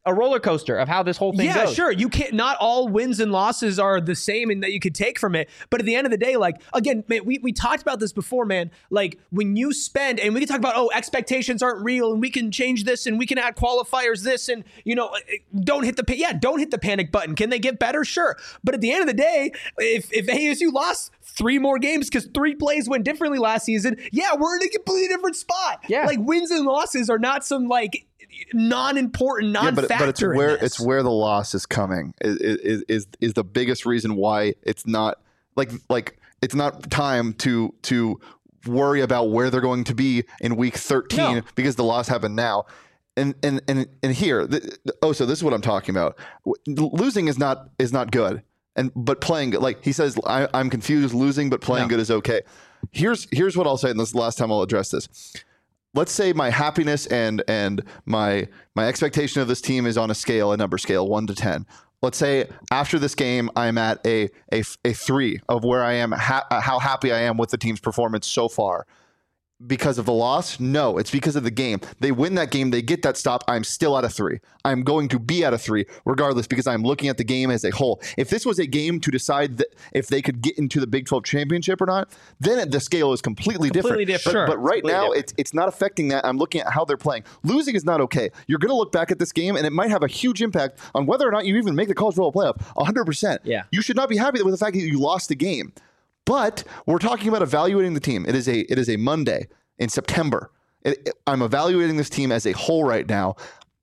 a roller coaster of how this whole thing yeah, goes. sure. You can't. Not all wins and losses are the same, and that you could take from it. But at the end of the day, like again, man, we we talked about this before, man. Like when you spend, and we can talk about, oh, expectations aren't real, and we can change this, and we can add qualifiers, this, and you know, don't hit the yeah, don't hit the panic button. Can they get better? Sure. But at the end of the day, if if A S U lost three more games because three plays went differently last season, yeah, we're in a completely different spot. Yeah, like wins and losses are not some like non-important, non-factor. Yeah, but, but it's where it's where the loss is coming is, is is is the biggest reason why it's not like like it's not time to to worry about where they're going to be in week thirteen no. because the loss happened now. And and and and here, the, oh, so this is what I'm talking about. Losing is not is not good, and but playing good, like he says, I, I'm confused. Losing but playing no. good is okay. Here's here's what I'll say, and this is the last time I'll address this. Let's say my happiness and and my my expectation of this team is on a scale, a number scale, one to ten. Let's say after this game, I'm at a a, a three of where I am, ha- how happy I am with the team's performance so far. Because of the loss? No, it's because of the game. They win that game, they get that stop. I'm still at a three. I'm going to be at a three regardless because I'm looking at the game as a whole. If this was a game to decide that if they could get into the Big twelve championship or not, then the scale is completely, completely different. different. But, Sure. but right completely now, different. it's it's not affecting that. I'm looking at how they're playing. Losing is not okay. You're going to look back at this game, and it might have a huge impact on whether or not you even make the college football playoff. one hundred percent. Yeah. You should not be happy with the fact that you lost the game. But we're talking about evaluating the team. It is a it is a Monday. In September, it, it, I'm evaluating this team as a whole right now.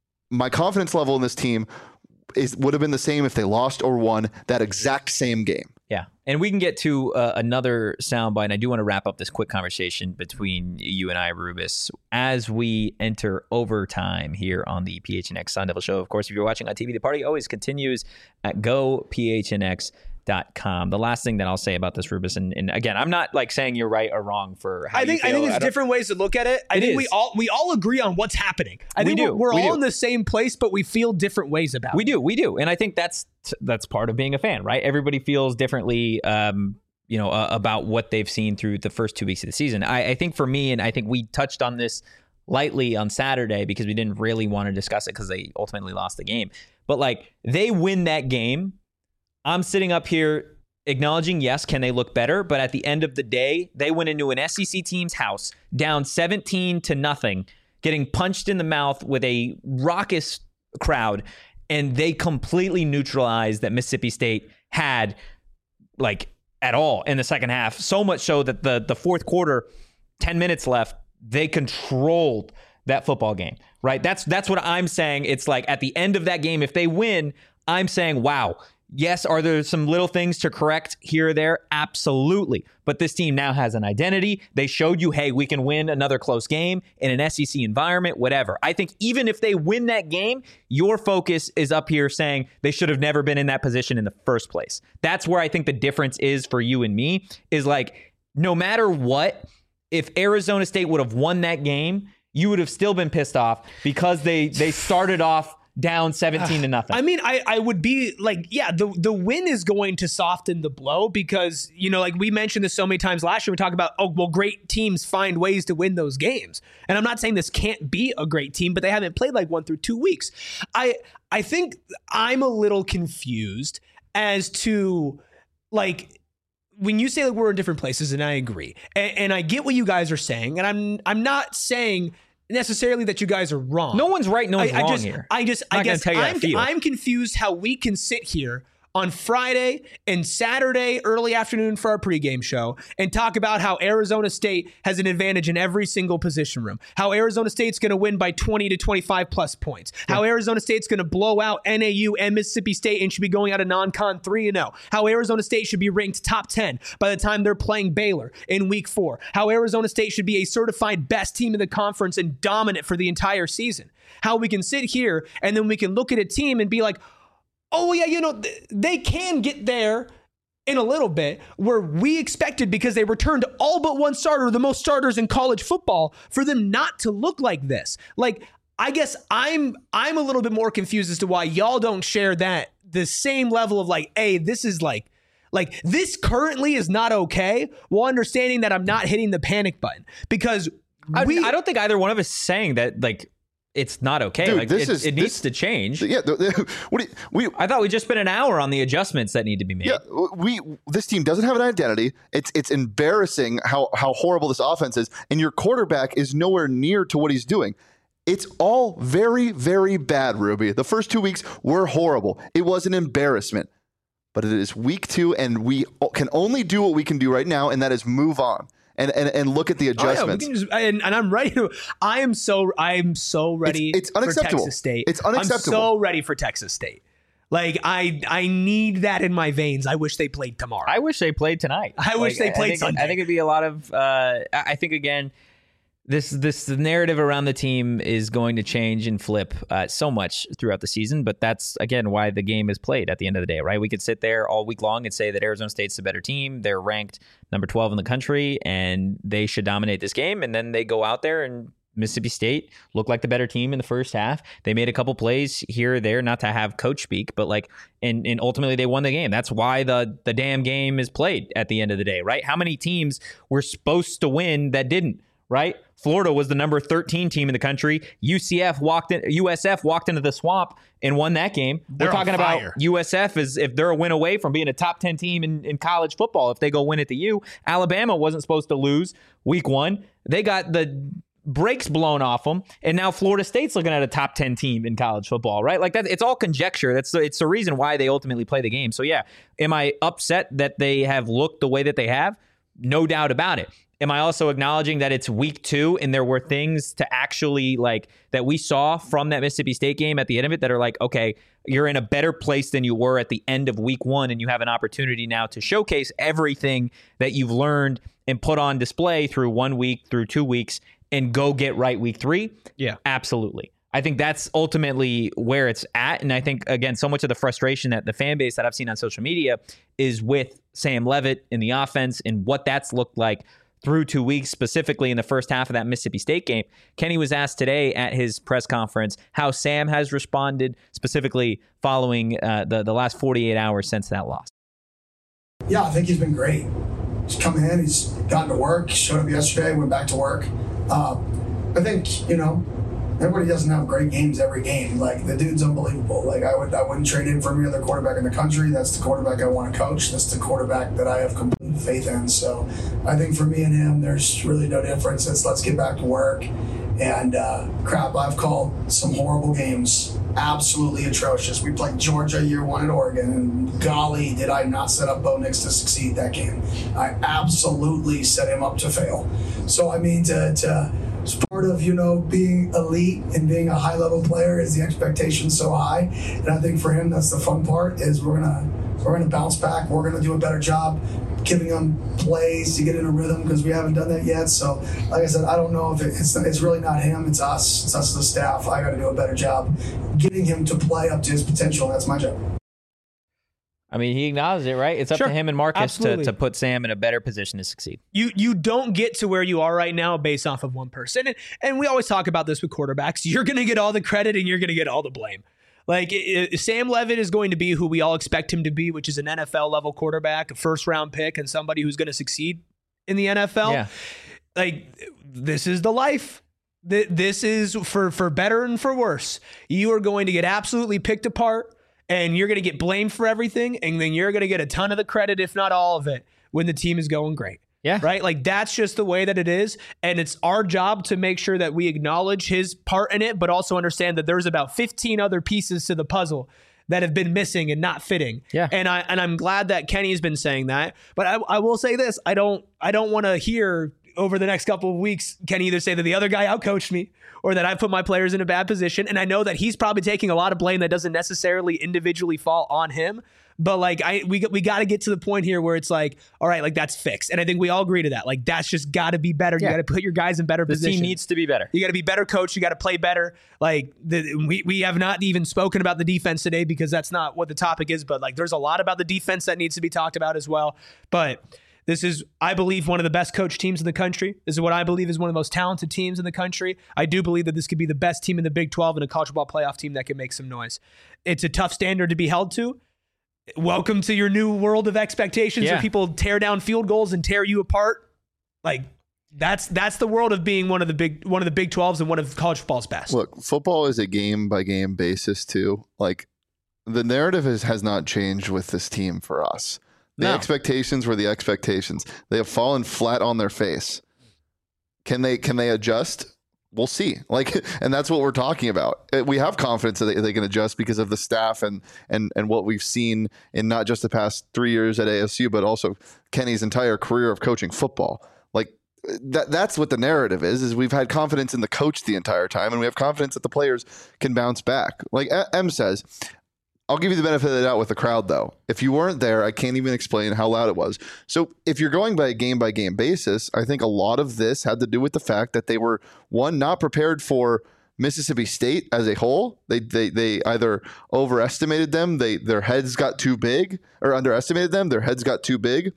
My confidence level in this team is would have been the same if they lost or won that exact same game. Yeah, and we can get to uh, another soundbite, and I do want to wrap up this quick conversation between you and I, Rubus, as we enter overtime here on the P H N X Sun Devil Show. Of course, if you're watching on T V, the party always continues at go P H N X dot com. The last thing that I'll say about this, Rubus, and, and again, I'm not like saying you're right or wrong for how I think you feel. I think there's I different ways to look at it. I it think is. we all we all agree on what's happening. I We think do. we're, we're We all do. in the same place, but we feel different ways about We it. do, we do, and I think that's that's part of being a fan, right? Everybody feels differently, um, you know, uh, about what they've seen through the first two weeks of the season. I, I think for me, and I think we touched on this lightly on Saturday because we didn't really want to discuss it because they ultimately lost the game. But like they win that game, I'm sitting up here acknowledging, yes, can they look better? But at the end of the day, they went into an S E C team's house down seventeen to nothing, getting punched in the mouth with a raucous crowd, and they completely neutralized that Mississippi State had like at all in the second half. So much so that the the fourth quarter, ten minutes left, they controlled that football game, right? That's that's what I'm saying. It's like at the end of that game, if they win, I'm saying, wow. Yes, are there some little things to correct here or there? Absolutely. But this team now has an identity. They showed you, hey, we can win another close game in an S E C environment, whatever. I think even if they win that game, your focus is up here saying they should have never been in that position in the first place. That's where I think the difference is for you and me, is like, no matter what, if Arizona State would have won that game, you would have still been pissed off because they they started off down seventeen to nothing. I mean, I, I would be like, yeah, the the win is going to soften the blow because, you know, like we mentioned this so many times last year, we talk about, oh, well, great teams find ways to win those games. And I'm not saying this can't be a great team, but they haven't played like one through two weeks. I I think I'm a little confused as to like, when you say that we're in different places, and I agree, and, and I get what you guys are saying, and I'm I'm not saying necessarily that you guys are wrong. No one's right, no one's I, I wrong just, here. I just, I'm I not gonna guess tell you how to I'm, feel. I'm confused how we can sit here on Friday and Saturday early afternoon for our pregame show and talk about how Arizona State has an advantage in every single position room, how Arizona State's going to win by twenty to twenty-five plus points, yeah. how Arizona State's going to blow out N A U and Mississippi State and should be going out of non-con three and oh, how Arizona State should be ranked top ten by the time they're playing Baylor in week four, how Arizona State should be a certified best team in the conference and dominant for the entire season, how we can sit here and then we can look at a team and be like, oh, yeah, you know, th- they can get there in a little bit where we expected because they returned all but one starter, the most starters in college football, for them not to look like this. Like, I guess I'm I'm a little bit more confused as to why y'all don't share that, the same level of like, hey, this is like, like this currently is not okay, while understanding that I'm not hitting the panic button because I, we, I don't think either one of us is saying that, like, it's not okay. Dude, like this it, is, it needs this, to change. Yeah. The, the, what do you, we, I thought we just spent an hour on the adjustments that need to be made. Yeah, we this team doesn't have an identity. It's it's embarrassing how how horrible this offense is, and your quarterback is nowhere near to what he's doing. It's all very, very bad, Ruby. The first two weeks were horrible. It was an embarrassment. But it is week two, and we can only do what we can do right now, and that is move on. And, and and look at the adjustments. Oh, yeah, just, and, and I'm ready to. I am so I am so ready. It's, it's unacceptable. For Texas State. It's unacceptable. I'm so ready for Texas State. Like I I need that in my veins. I wish they played tomorrow. I wish they played tonight. I like, wish they played I think, Sunday. I think it'd be a lot of. Uh, I think again, this this narrative around the team is going to change and flip uh, so much throughout the season. But that's again why the game is played at the end of the day, right? We could sit there all week long and say that Arizona State's the better team. They're ranked number twelve in the country, and they should dominate this game. And then they go out there and Mississippi State looked like the better team in the first half. They made a couple plays here or there, not to have coach speak, but like, and, and ultimately they won the game. That's why the the damn game is played at the end of the day, right? How many teams were supposed to win that didn't, right? Florida was the number thirteen team in the country. U C F walked in, U S F walked into the swamp and won that game. They're We're talking on about fire. U S F is if they're a win away from being a top ten team in, in college football. If they go win at the U, Alabama wasn't supposed to lose week one. They got the brakes blown off them, and now Florida State's looking at a top ten team in college football, right? Like that, it's all conjecture. That's the, it's the reason why they ultimately play the game. So yeah, am I upset that they have looked the way that they have? No doubt about it. Am I also acknowledging that it's week two and there were things to actually like that we saw from that Mississippi State game at the end of it that are like, okay, you're in a better place than you were at the end of week one, and you have an opportunity now to showcase everything that you've learned and put on display through one week, through two weeks, and go get right week three? Yeah. Absolutely. I think that's ultimately where it's at. And I think, again, so much of the frustration that the fan base that I've seen on social media is with Sam Leavitt in the offense and what that's looked like through two weeks, specifically in the first half of that Mississippi State game. Kenny was asked today at his press conference how Sam has responded, specifically following uh, the, the last forty-eight hours since that loss. Yeah, I think he's been great. He's come in, he's gotten to work, showed up yesterday, went back to work. Uh, I think, you know, everybody doesn't have great games every game. Like, the dude's unbelievable. Like, I, would, I wouldn't trade him for any other quarterback in the country. That's the quarterback I want to coach. That's the quarterback that I have complete faith in. So I think for me and him, there's really no difference. It's let's get back to work. And uh, crap, I've called some horrible games. Absolutely atrocious. We played Georgia year one at Oregon, and golly, did I not set up Bo Nix to succeed that game. I absolutely set him up to fail. So, I mean, to, to it's part of, you know, being elite and being a high-level player is the expectation so high. And I think for him, that's the fun part, is we're gonna we're gonna bounce back. We're gonna do a better job giving him plays to get in a rhythm, because we haven't done that yet. So, like I said, I don't know if it, it's it's really not him. It's us. It's us as a staff. I got to do a better job getting him to play up to his potential. And that's my job. I mean, he acknowledged it, right? It's up Sure. to him and Marcus to, Absolutely. to put Sam in a better position to succeed. You you don't get to where you are right now based off of one person. And, and we always talk about this with quarterbacks. You're going to get all the credit and you're going to get all the blame. Like, it, it, Sam Leavitt is going to be who we all expect him to be, which is an N F L level quarterback, a first round pick, and somebody who's going to succeed in the N F L. Yeah. Like, this is the life. Th- This is for, for better and for worse. You are going to get absolutely picked apart, and you're going to get blamed for everything, and then you're going to get a ton of the credit, if not all of it, when the team is going great. Yeah. Right? Like, that's just the way that it is. And it's our job to make sure that we acknowledge his part in it, but also understand that there's about fifteen other pieces to the puzzle that have been missing and not fitting. Yeah. And I and I'm glad that Kenny's been saying that. But I, I will say this, I don't I don't want to hear over the next couple of weeks Kenny either say that the other guy outcoached me or that I put my players in a bad position. And I know that he's probably taking a lot of blame that doesn't necessarily individually fall on him. But like I we we got to get to the point here where it's like, all right, like that's fixed. And I think we all agree to that. Like, that's just got to be better. Yeah. You got to put your guys in better The positions. team needs to be better. You got to be better coach. You got to play better. Like, the, we we have not even spoken about the defense today because that's not what the topic is. But like, there's a lot about the defense that needs to be talked about as well. But this is, I believe, one of the best coached teams in the country. This is what I believe is one of the most talented teams in the country. I do believe that this could be the best team in the Big twelve and a college football playoff team that can make some noise. It's a tough standard to be held to. Welcome to your new world of expectations Yeah. where people tear down field goals and tear you apart. Like, That's that's the world of being one of the big one of the Big twelves and one of college football's best. Look, football is a game by game basis too. Like the narrative is, has not changed with this team for us. The No. expectations were the expectations. They have fallen flat on their face. Can they can they adjust? We'll see. Like, and that's what we're talking about. We have confidence that they, they can adjust because of the staff and and and what we've seen in not just the past three years at A S U, but also Kenny's entire career of coaching football. Like that that's what the narrative is, is we've had confidence in the coach the entire time, and we have confidence that the players can bounce back. Like M says, I'll give you the benefit of the doubt with the crowd, though. If you weren't there, I can't even explain how loud it was. So if you're going by a game-by-game basis, I think a lot of this had to do with the fact that they were, one, not prepared for Mississippi State as a whole. They they they either overestimated them, they their heads got too big, or underestimated them, their heads got too big,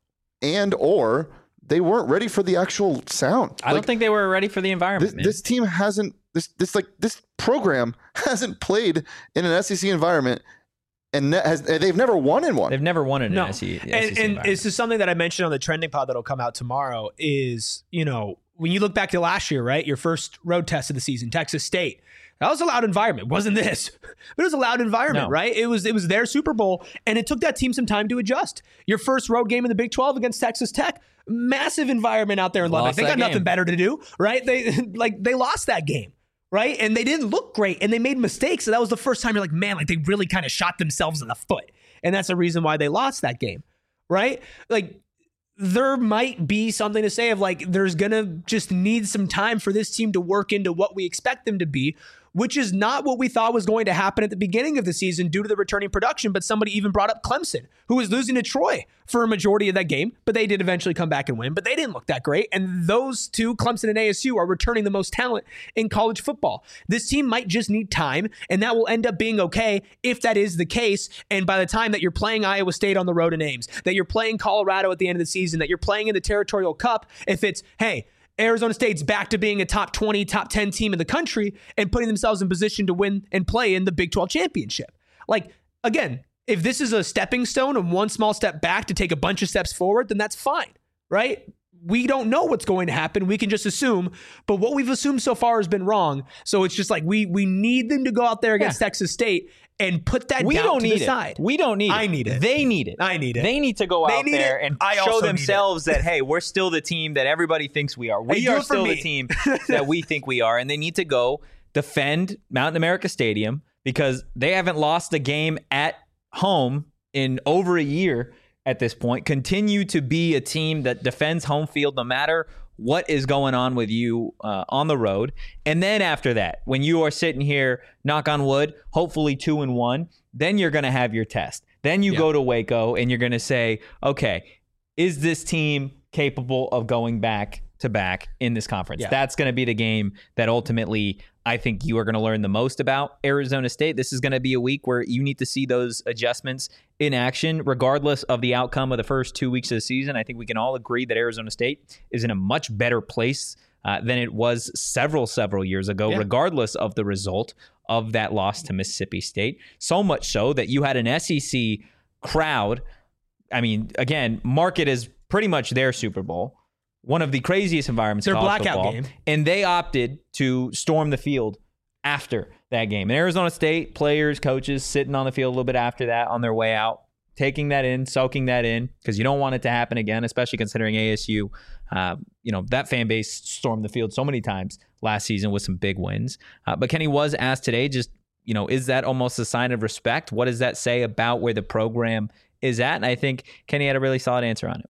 and or they weren't ready for the actual sound. I like, don't think they were ready for the environment. This, man. this team hasn't this this like this program hasn't played in an S E C environment, and ne- has they've never won in one. They've never won in No. an S E C. And, and this is something that I mentioned on the trending pod that'll come out tomorrow is, you know, when you look back to last year, right? Your first road test of the season, Texas State. That was a loud environment. It wasn't this, but it was a loud environment, No. right? It was it was their Super Bowl, and it took that team some time to adjust. Your first road game in the Big twelve against Texas Tech, massive environment out there in Lubbock. Lost They got that nothing game. better to do, right? They like they lost that game, right? And they didn't look great, and they made mistakes. So that was the first time you're like, man, like they really kind of shot themselves in the foot, and that's the reason why they lost that game, right? Like. There might be something to say of like, there's going to just need some time for this team to work into what we expect them to be, which is not what we thought was going to happen at the beginning of the season due to the returning production. But somebody even brought up Clemson, who was losing to Troy for a majority of that game, but they did eventually come back and win, but they didn't look that great. And those two, Clemson and A S U, are returning the most talent in college football. This team might just need time, and that will end up being okay if that is the case. And by the time that you're playing Iowa State on the road in Ames, that you're playing Colorado at the end of the season, that you're playing in the Territorial Cup, if it's, hey, Arizona State's back to being a top twenty, top ten team in the country and putting themselves in position to win and play in the Big twelve championship. Like, again, if this is a stepping stone and one small step back to take a bunch of steps forward, then that's fine, right? We don't know what's going to happen. We can just assume, but what we've assumed so far has been wrong. So it's just like we we need them to go out there against Yeah. Texas State and put that we down don't to need the it. side. We don't need it. I need it. They need it. I need it. They need to go They out need there it. and I also show need it. themselves that, hey, we're still the team that everybody thinks we are. We Hey, do are it for still the me. team that we think we are. And they need to go defend Mountain America Stadium because they haven't lost a game at home in over a year at this point. Continue to be a team that defends home field no matter what is going on with you uh, on the road. And then after that, when you are sitting here, knock on wood, hopefully two and one, then you're going to have your test. Then you Yeah. go to Waco and you're going to say, okay, is this team capable of going back to back in this conference? Yeah. That's going to be the game that ultimately I think you are going to learn the most about Arizona State. This is going to be a week where you need to see those adjustments in action, regardless of the outcome of the first two weeks of the season. I think we can all agree that Arizona State is in a much better place uh, than it was several, several years ago, Yeah. regardless of the result of that loss to Mississippi State. So much so that you had an S E C crowd. I mean, again, mark it as pretty much their Super Bowl. One of the craziest environments in Their college blackout football. game. And they opted to storm the field after that game. And Arizona State players, coaches sitting on the field a little bit after that on their way out, taking that in, soaking that in, because you don't want it to happen again, especially considering A S U, uh, you know, that fan base stormed the field so many times last season with some big wins. Uh, but Kenny was asked today, just, you know, is that almost a sign of respect? What does that say about where the program is at? And I think Kenny had a really solid answer on it.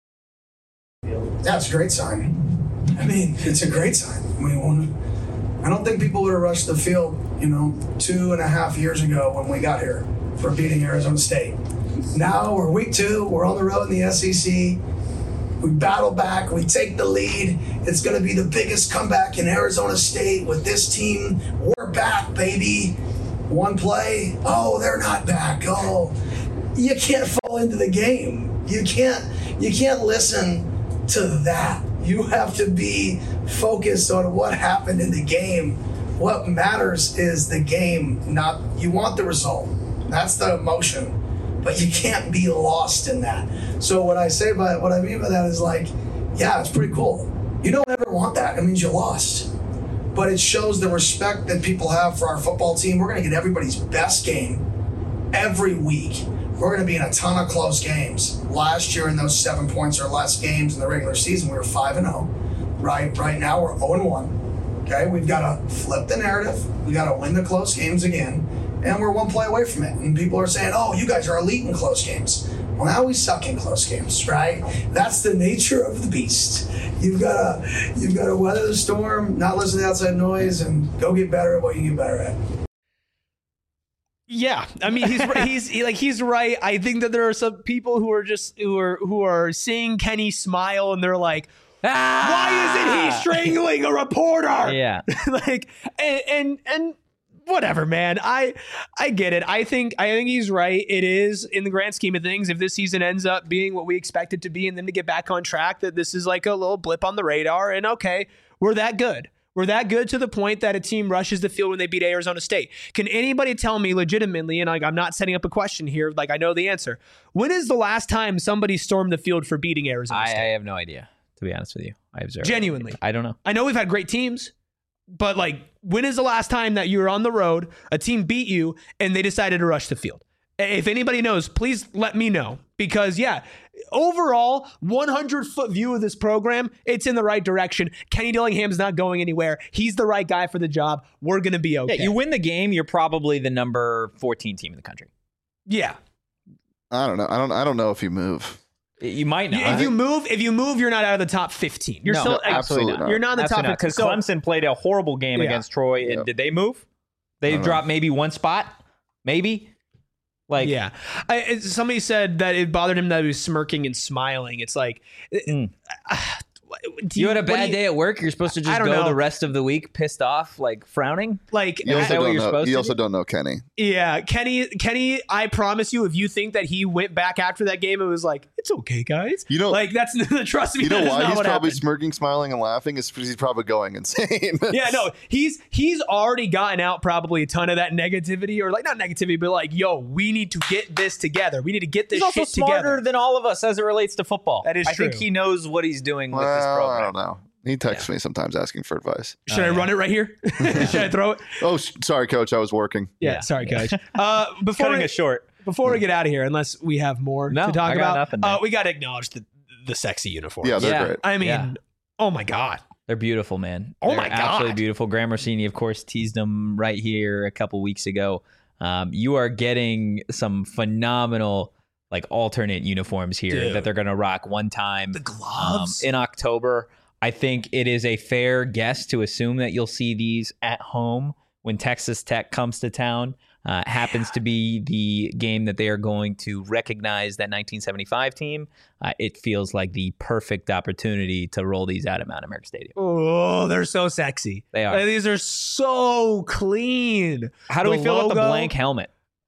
That's a great sign. I mean, it's a great sign. I mean, when, I don't think people would have rushed the field, you know, two and a half years ago when we got here for beating Arizona State. Now we're week two, we're on the road in the S E C. We battle back, we take the lead. It's going to be the biggest comeback in Arizona State with this team. We're back, baby. One play, oh, they're not back. Oh, you can't fall into the game. You can't, you can't listen to that. You have to be focused on what happened in the game. What matters is the game, not you want the result. That's the emotion, but you can't be lost in that. So what I say by what I mean by that is like, yeah, it's pretty cool. You don't ever want that. It means you lost. But it shows the respect that people have for our football team. We're going to get everybody's best game every week. We're going to be in a ton of close games. Last year in those seven points or less games in the regular season, we were five and oh. Right, right now we're oh and one. Okay, we've got to flip the narrative. We got to win the close games again. And we're one play away from it. And people are saying, oh, you guys are elite in close games. Well, now we suck in close games, right? That's the nature of the beast. You've got to you've got to weather the storm, not listen to outside noise, and go get better at what you get better at. Yeah, I mean he's he's he, like he's right. I think that there are some people who are just who are who are seeing Kenny smile and they're like, ah! Why isn't he strangling a reporter? Yeah, like and and and. Whatever, man. I I get it. I think I think he's right. It is, in the grand scheme of things, if this season ends up being what we expect it to be and then to get back on track, that this is like a little blip on the radar. And okay, we're that good. We're that good to the point that a team rushes the field when they beat Arizona State. Can anybody tell me legitimately, and like I'm not setting up a question here, like I know the answer, when is the last time somebody stormed the field for beating Arizona I, State? I have no idea, to be honest with you. I observe. Genuinely. I don't know. I know we've had great teams. But like, when is the last time that you were on the road, a team beat you, and they decided to rush the field? If anybody knows, please let me know. Because yeah, overall, one hundred foot view of this program, it's in the right direction. Kenny Dillingham's not going anywhere. He's the right guy for the job. We're going to be okay. Yeah, you win the game, you're probably the number fourteen team in the country. Yeah. I don't know. I don't. I don't know if you move. You might not. If you move, if you move, you're not out of the top fifteen. You're No, still no, absolutely not. You're not in the Absolutely top not, because so- Clemson played a horrible game Yeah. against Troy. And Yep. did they move? They dropped maybe one spot, maybe. Like, yeah, I, it- somebody said that it bothered him that he was smirking and smiling. It's like, Mm. uh, do you had a what do bad you- day at work. You're supposed to I just don't go know. the rest of the week pissed off, like frowning. Like, You Is also that what don't you're know. supposed You to also do? don't know Kenny. yeah, Kenny, Kenny, I promise you, if you think that he went back after that game, it was like, it's okay, guys. You know- like that's trust me. You know that is why not he's what probably happened. smirking, smiling, and laughing? Is because he's probably going insane. Yeah, no, he's he's already gotten out probably a ton of that negativity, or like not negativity, but like, yo, we need to get this together. We need to get this He's also shit smarter together. than all of us as it relates to football. That is I think true. he knows what he's doing with this Well, I program. don't know. He texts me sometimes asking for advice. Should Oh, I yeah. run it right here? Should I throw it? Oh, s- sorry, coach. I was working. Yeah, Yeah. sorry, coach. Uh, before Cutting we, it short. before we get out of here, unless we have more No, to talk I got about, nothing, uh, man. we got to acknowledge the the sexy uniforms. Yeah, they're Yeah. great. I mean, Yeah. oh my god. They're beautiful, man. Oh They're my God. absolutely beautiful. Graham Rossini, of course, teased them right here a couple weeks ago. Um, you are getting some phenomenal, like alternate uniforms here Dude. that they're going to rock one time The um, gloves. in October. I think it is a fair guess to assume that you'll see these at home when Texas Tech comes to town. Uh, happens to be the game that they are going to recognize that nineteen seventy-five team. Uh, it feels like the perfect opportunity to roll these out at Mount America Stadium. Oh, they're so sexy. They are. Like, these are so clean. How do The we feel about the logo. blank helmet?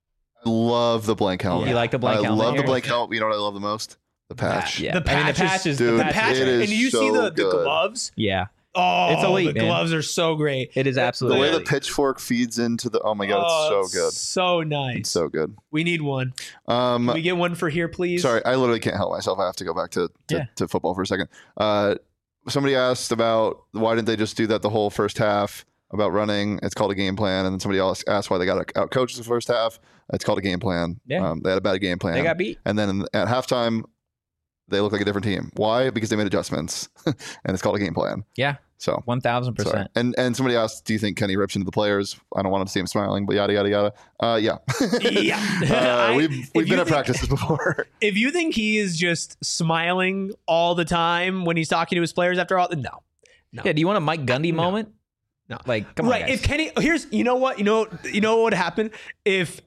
I love the blank helmet. You like the blank I helmet love here? the blank helmet. You know what I love the most? The patch. Yeah, The I mean the patches- patches. Dude, the The patches patch, it is and you see so the, the good. gloves. yeah, Oh, It's elite, the man. gloves are so great. it is The absolutely. way the pitchfork feeds into the oh my god, Oh, it's so good. So nice. It's so good. we need one. Um, Can we get one for here, please? sorry, I literally can't help myself. I have to go back to to, Yeah. to football for a second. Uh, somebody asked about why didn't they just do that the whole first half about running? It's called a game plan. And then somebody else asked why they got out coached the first half. It's called a game plan. Yeah. Um, they had a bad game plan. They got beat. And then in, at halftime, they look like a different team. Why? Because they made adjustments, and it's called a game plan. Yeah, So one thousand sorry. percent. And and somebody asked, do you think Kenny rips into the players? I don't want to see him smiling, but yada yada yada. Uh, yeah, Yeah. uh, I- we've if we've you been at think- practices before. If you think he is just smiling all the time when he's talking to his players after all, no. No. Yeah, do you want a Mike Gundy No. moment? No. Like, come on, Right. guys. If Kenny, here's, you know what, you know, you know what would happen if,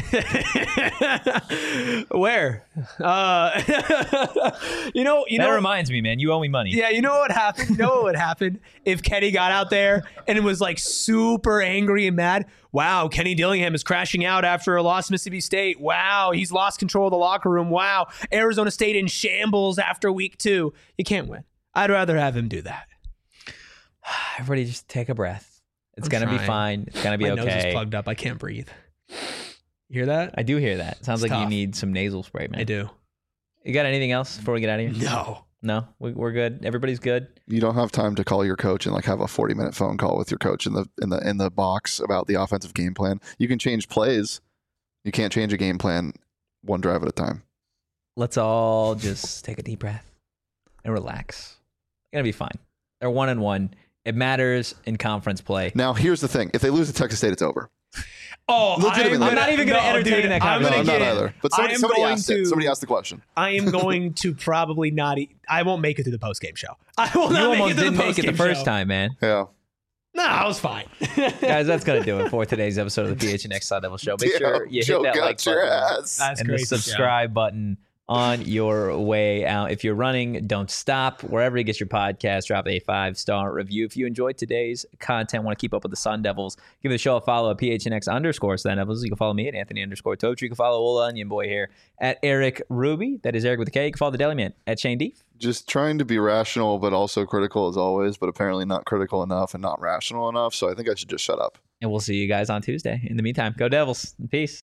where, uh, you know, you that know, reminds me, man. You owe me money. yeah, you know what would happen? You know what would happen if Kenny got out there and was like super angry and mad? Wow, Kenny Dillingham is crashing out after a loss to Mississippi State. Wow, he's lost control of the locker room. Wow, Arizona State in shambles after week two. You can't win. I'd rather have him do that. Everybody, just take a breath. It's I'm gonna be trying. fine. It's gonna be My nose is okay. plugged up. I can't breathe. You hear that? I do hear that. Sounds It's like you tough. need some nasal spray, man. I do. You got anything else before we get out of here? No. No, we, we're good. Everybody's good. You don't have time to call your coach and like have a forty minute phone call with your coach in the in the in the box about the offensive game plan. You can change plays. You can't change a game plan one drive at a time. Let's all just take a deep breath and relax. It's gonna be fine. They're one and one. It matters in conference play. Now, here's the thing: if they lose to Texas State, it's over. Oh, Legitimately. I'm, I'm not even going to no, entertain dude, that I'm conversation. gonna No, I'm get, not either. But somebody, I am somebody going asked to, it. Somebody asked the question. I am going to probably not. E- I won't make it to the post game show. I will You not make almost it to didn't the make it the post-game first show. time, man. Yeah. No, I was fine. Guys, that's going to do it for today's episode of the P H N X Sun Devil Show. Make Damn, sure you Joe hit that got like your button ass. That's and the crazy, subscribe button on your way out. If you're running, don't stop. Wherever you get your podcast, drop a five-star review. If you enjoyed today's content, want to keep up with the Sun Devils, give the show a follow at P H N X underscore Sun Devils. You can follow me at Anthony underscore Toach. You can follow Ola Onion Boy here at Eric Ruby. That is Eric with a K. You can follow the Deli Man at Shane Deef. Just trying to be rational, but also critical as always, but apparently not critical enough and not rational enough. So I think I should just shut up. And we'll see you guys on Tuesday. In the meantime, go Devils. Peace.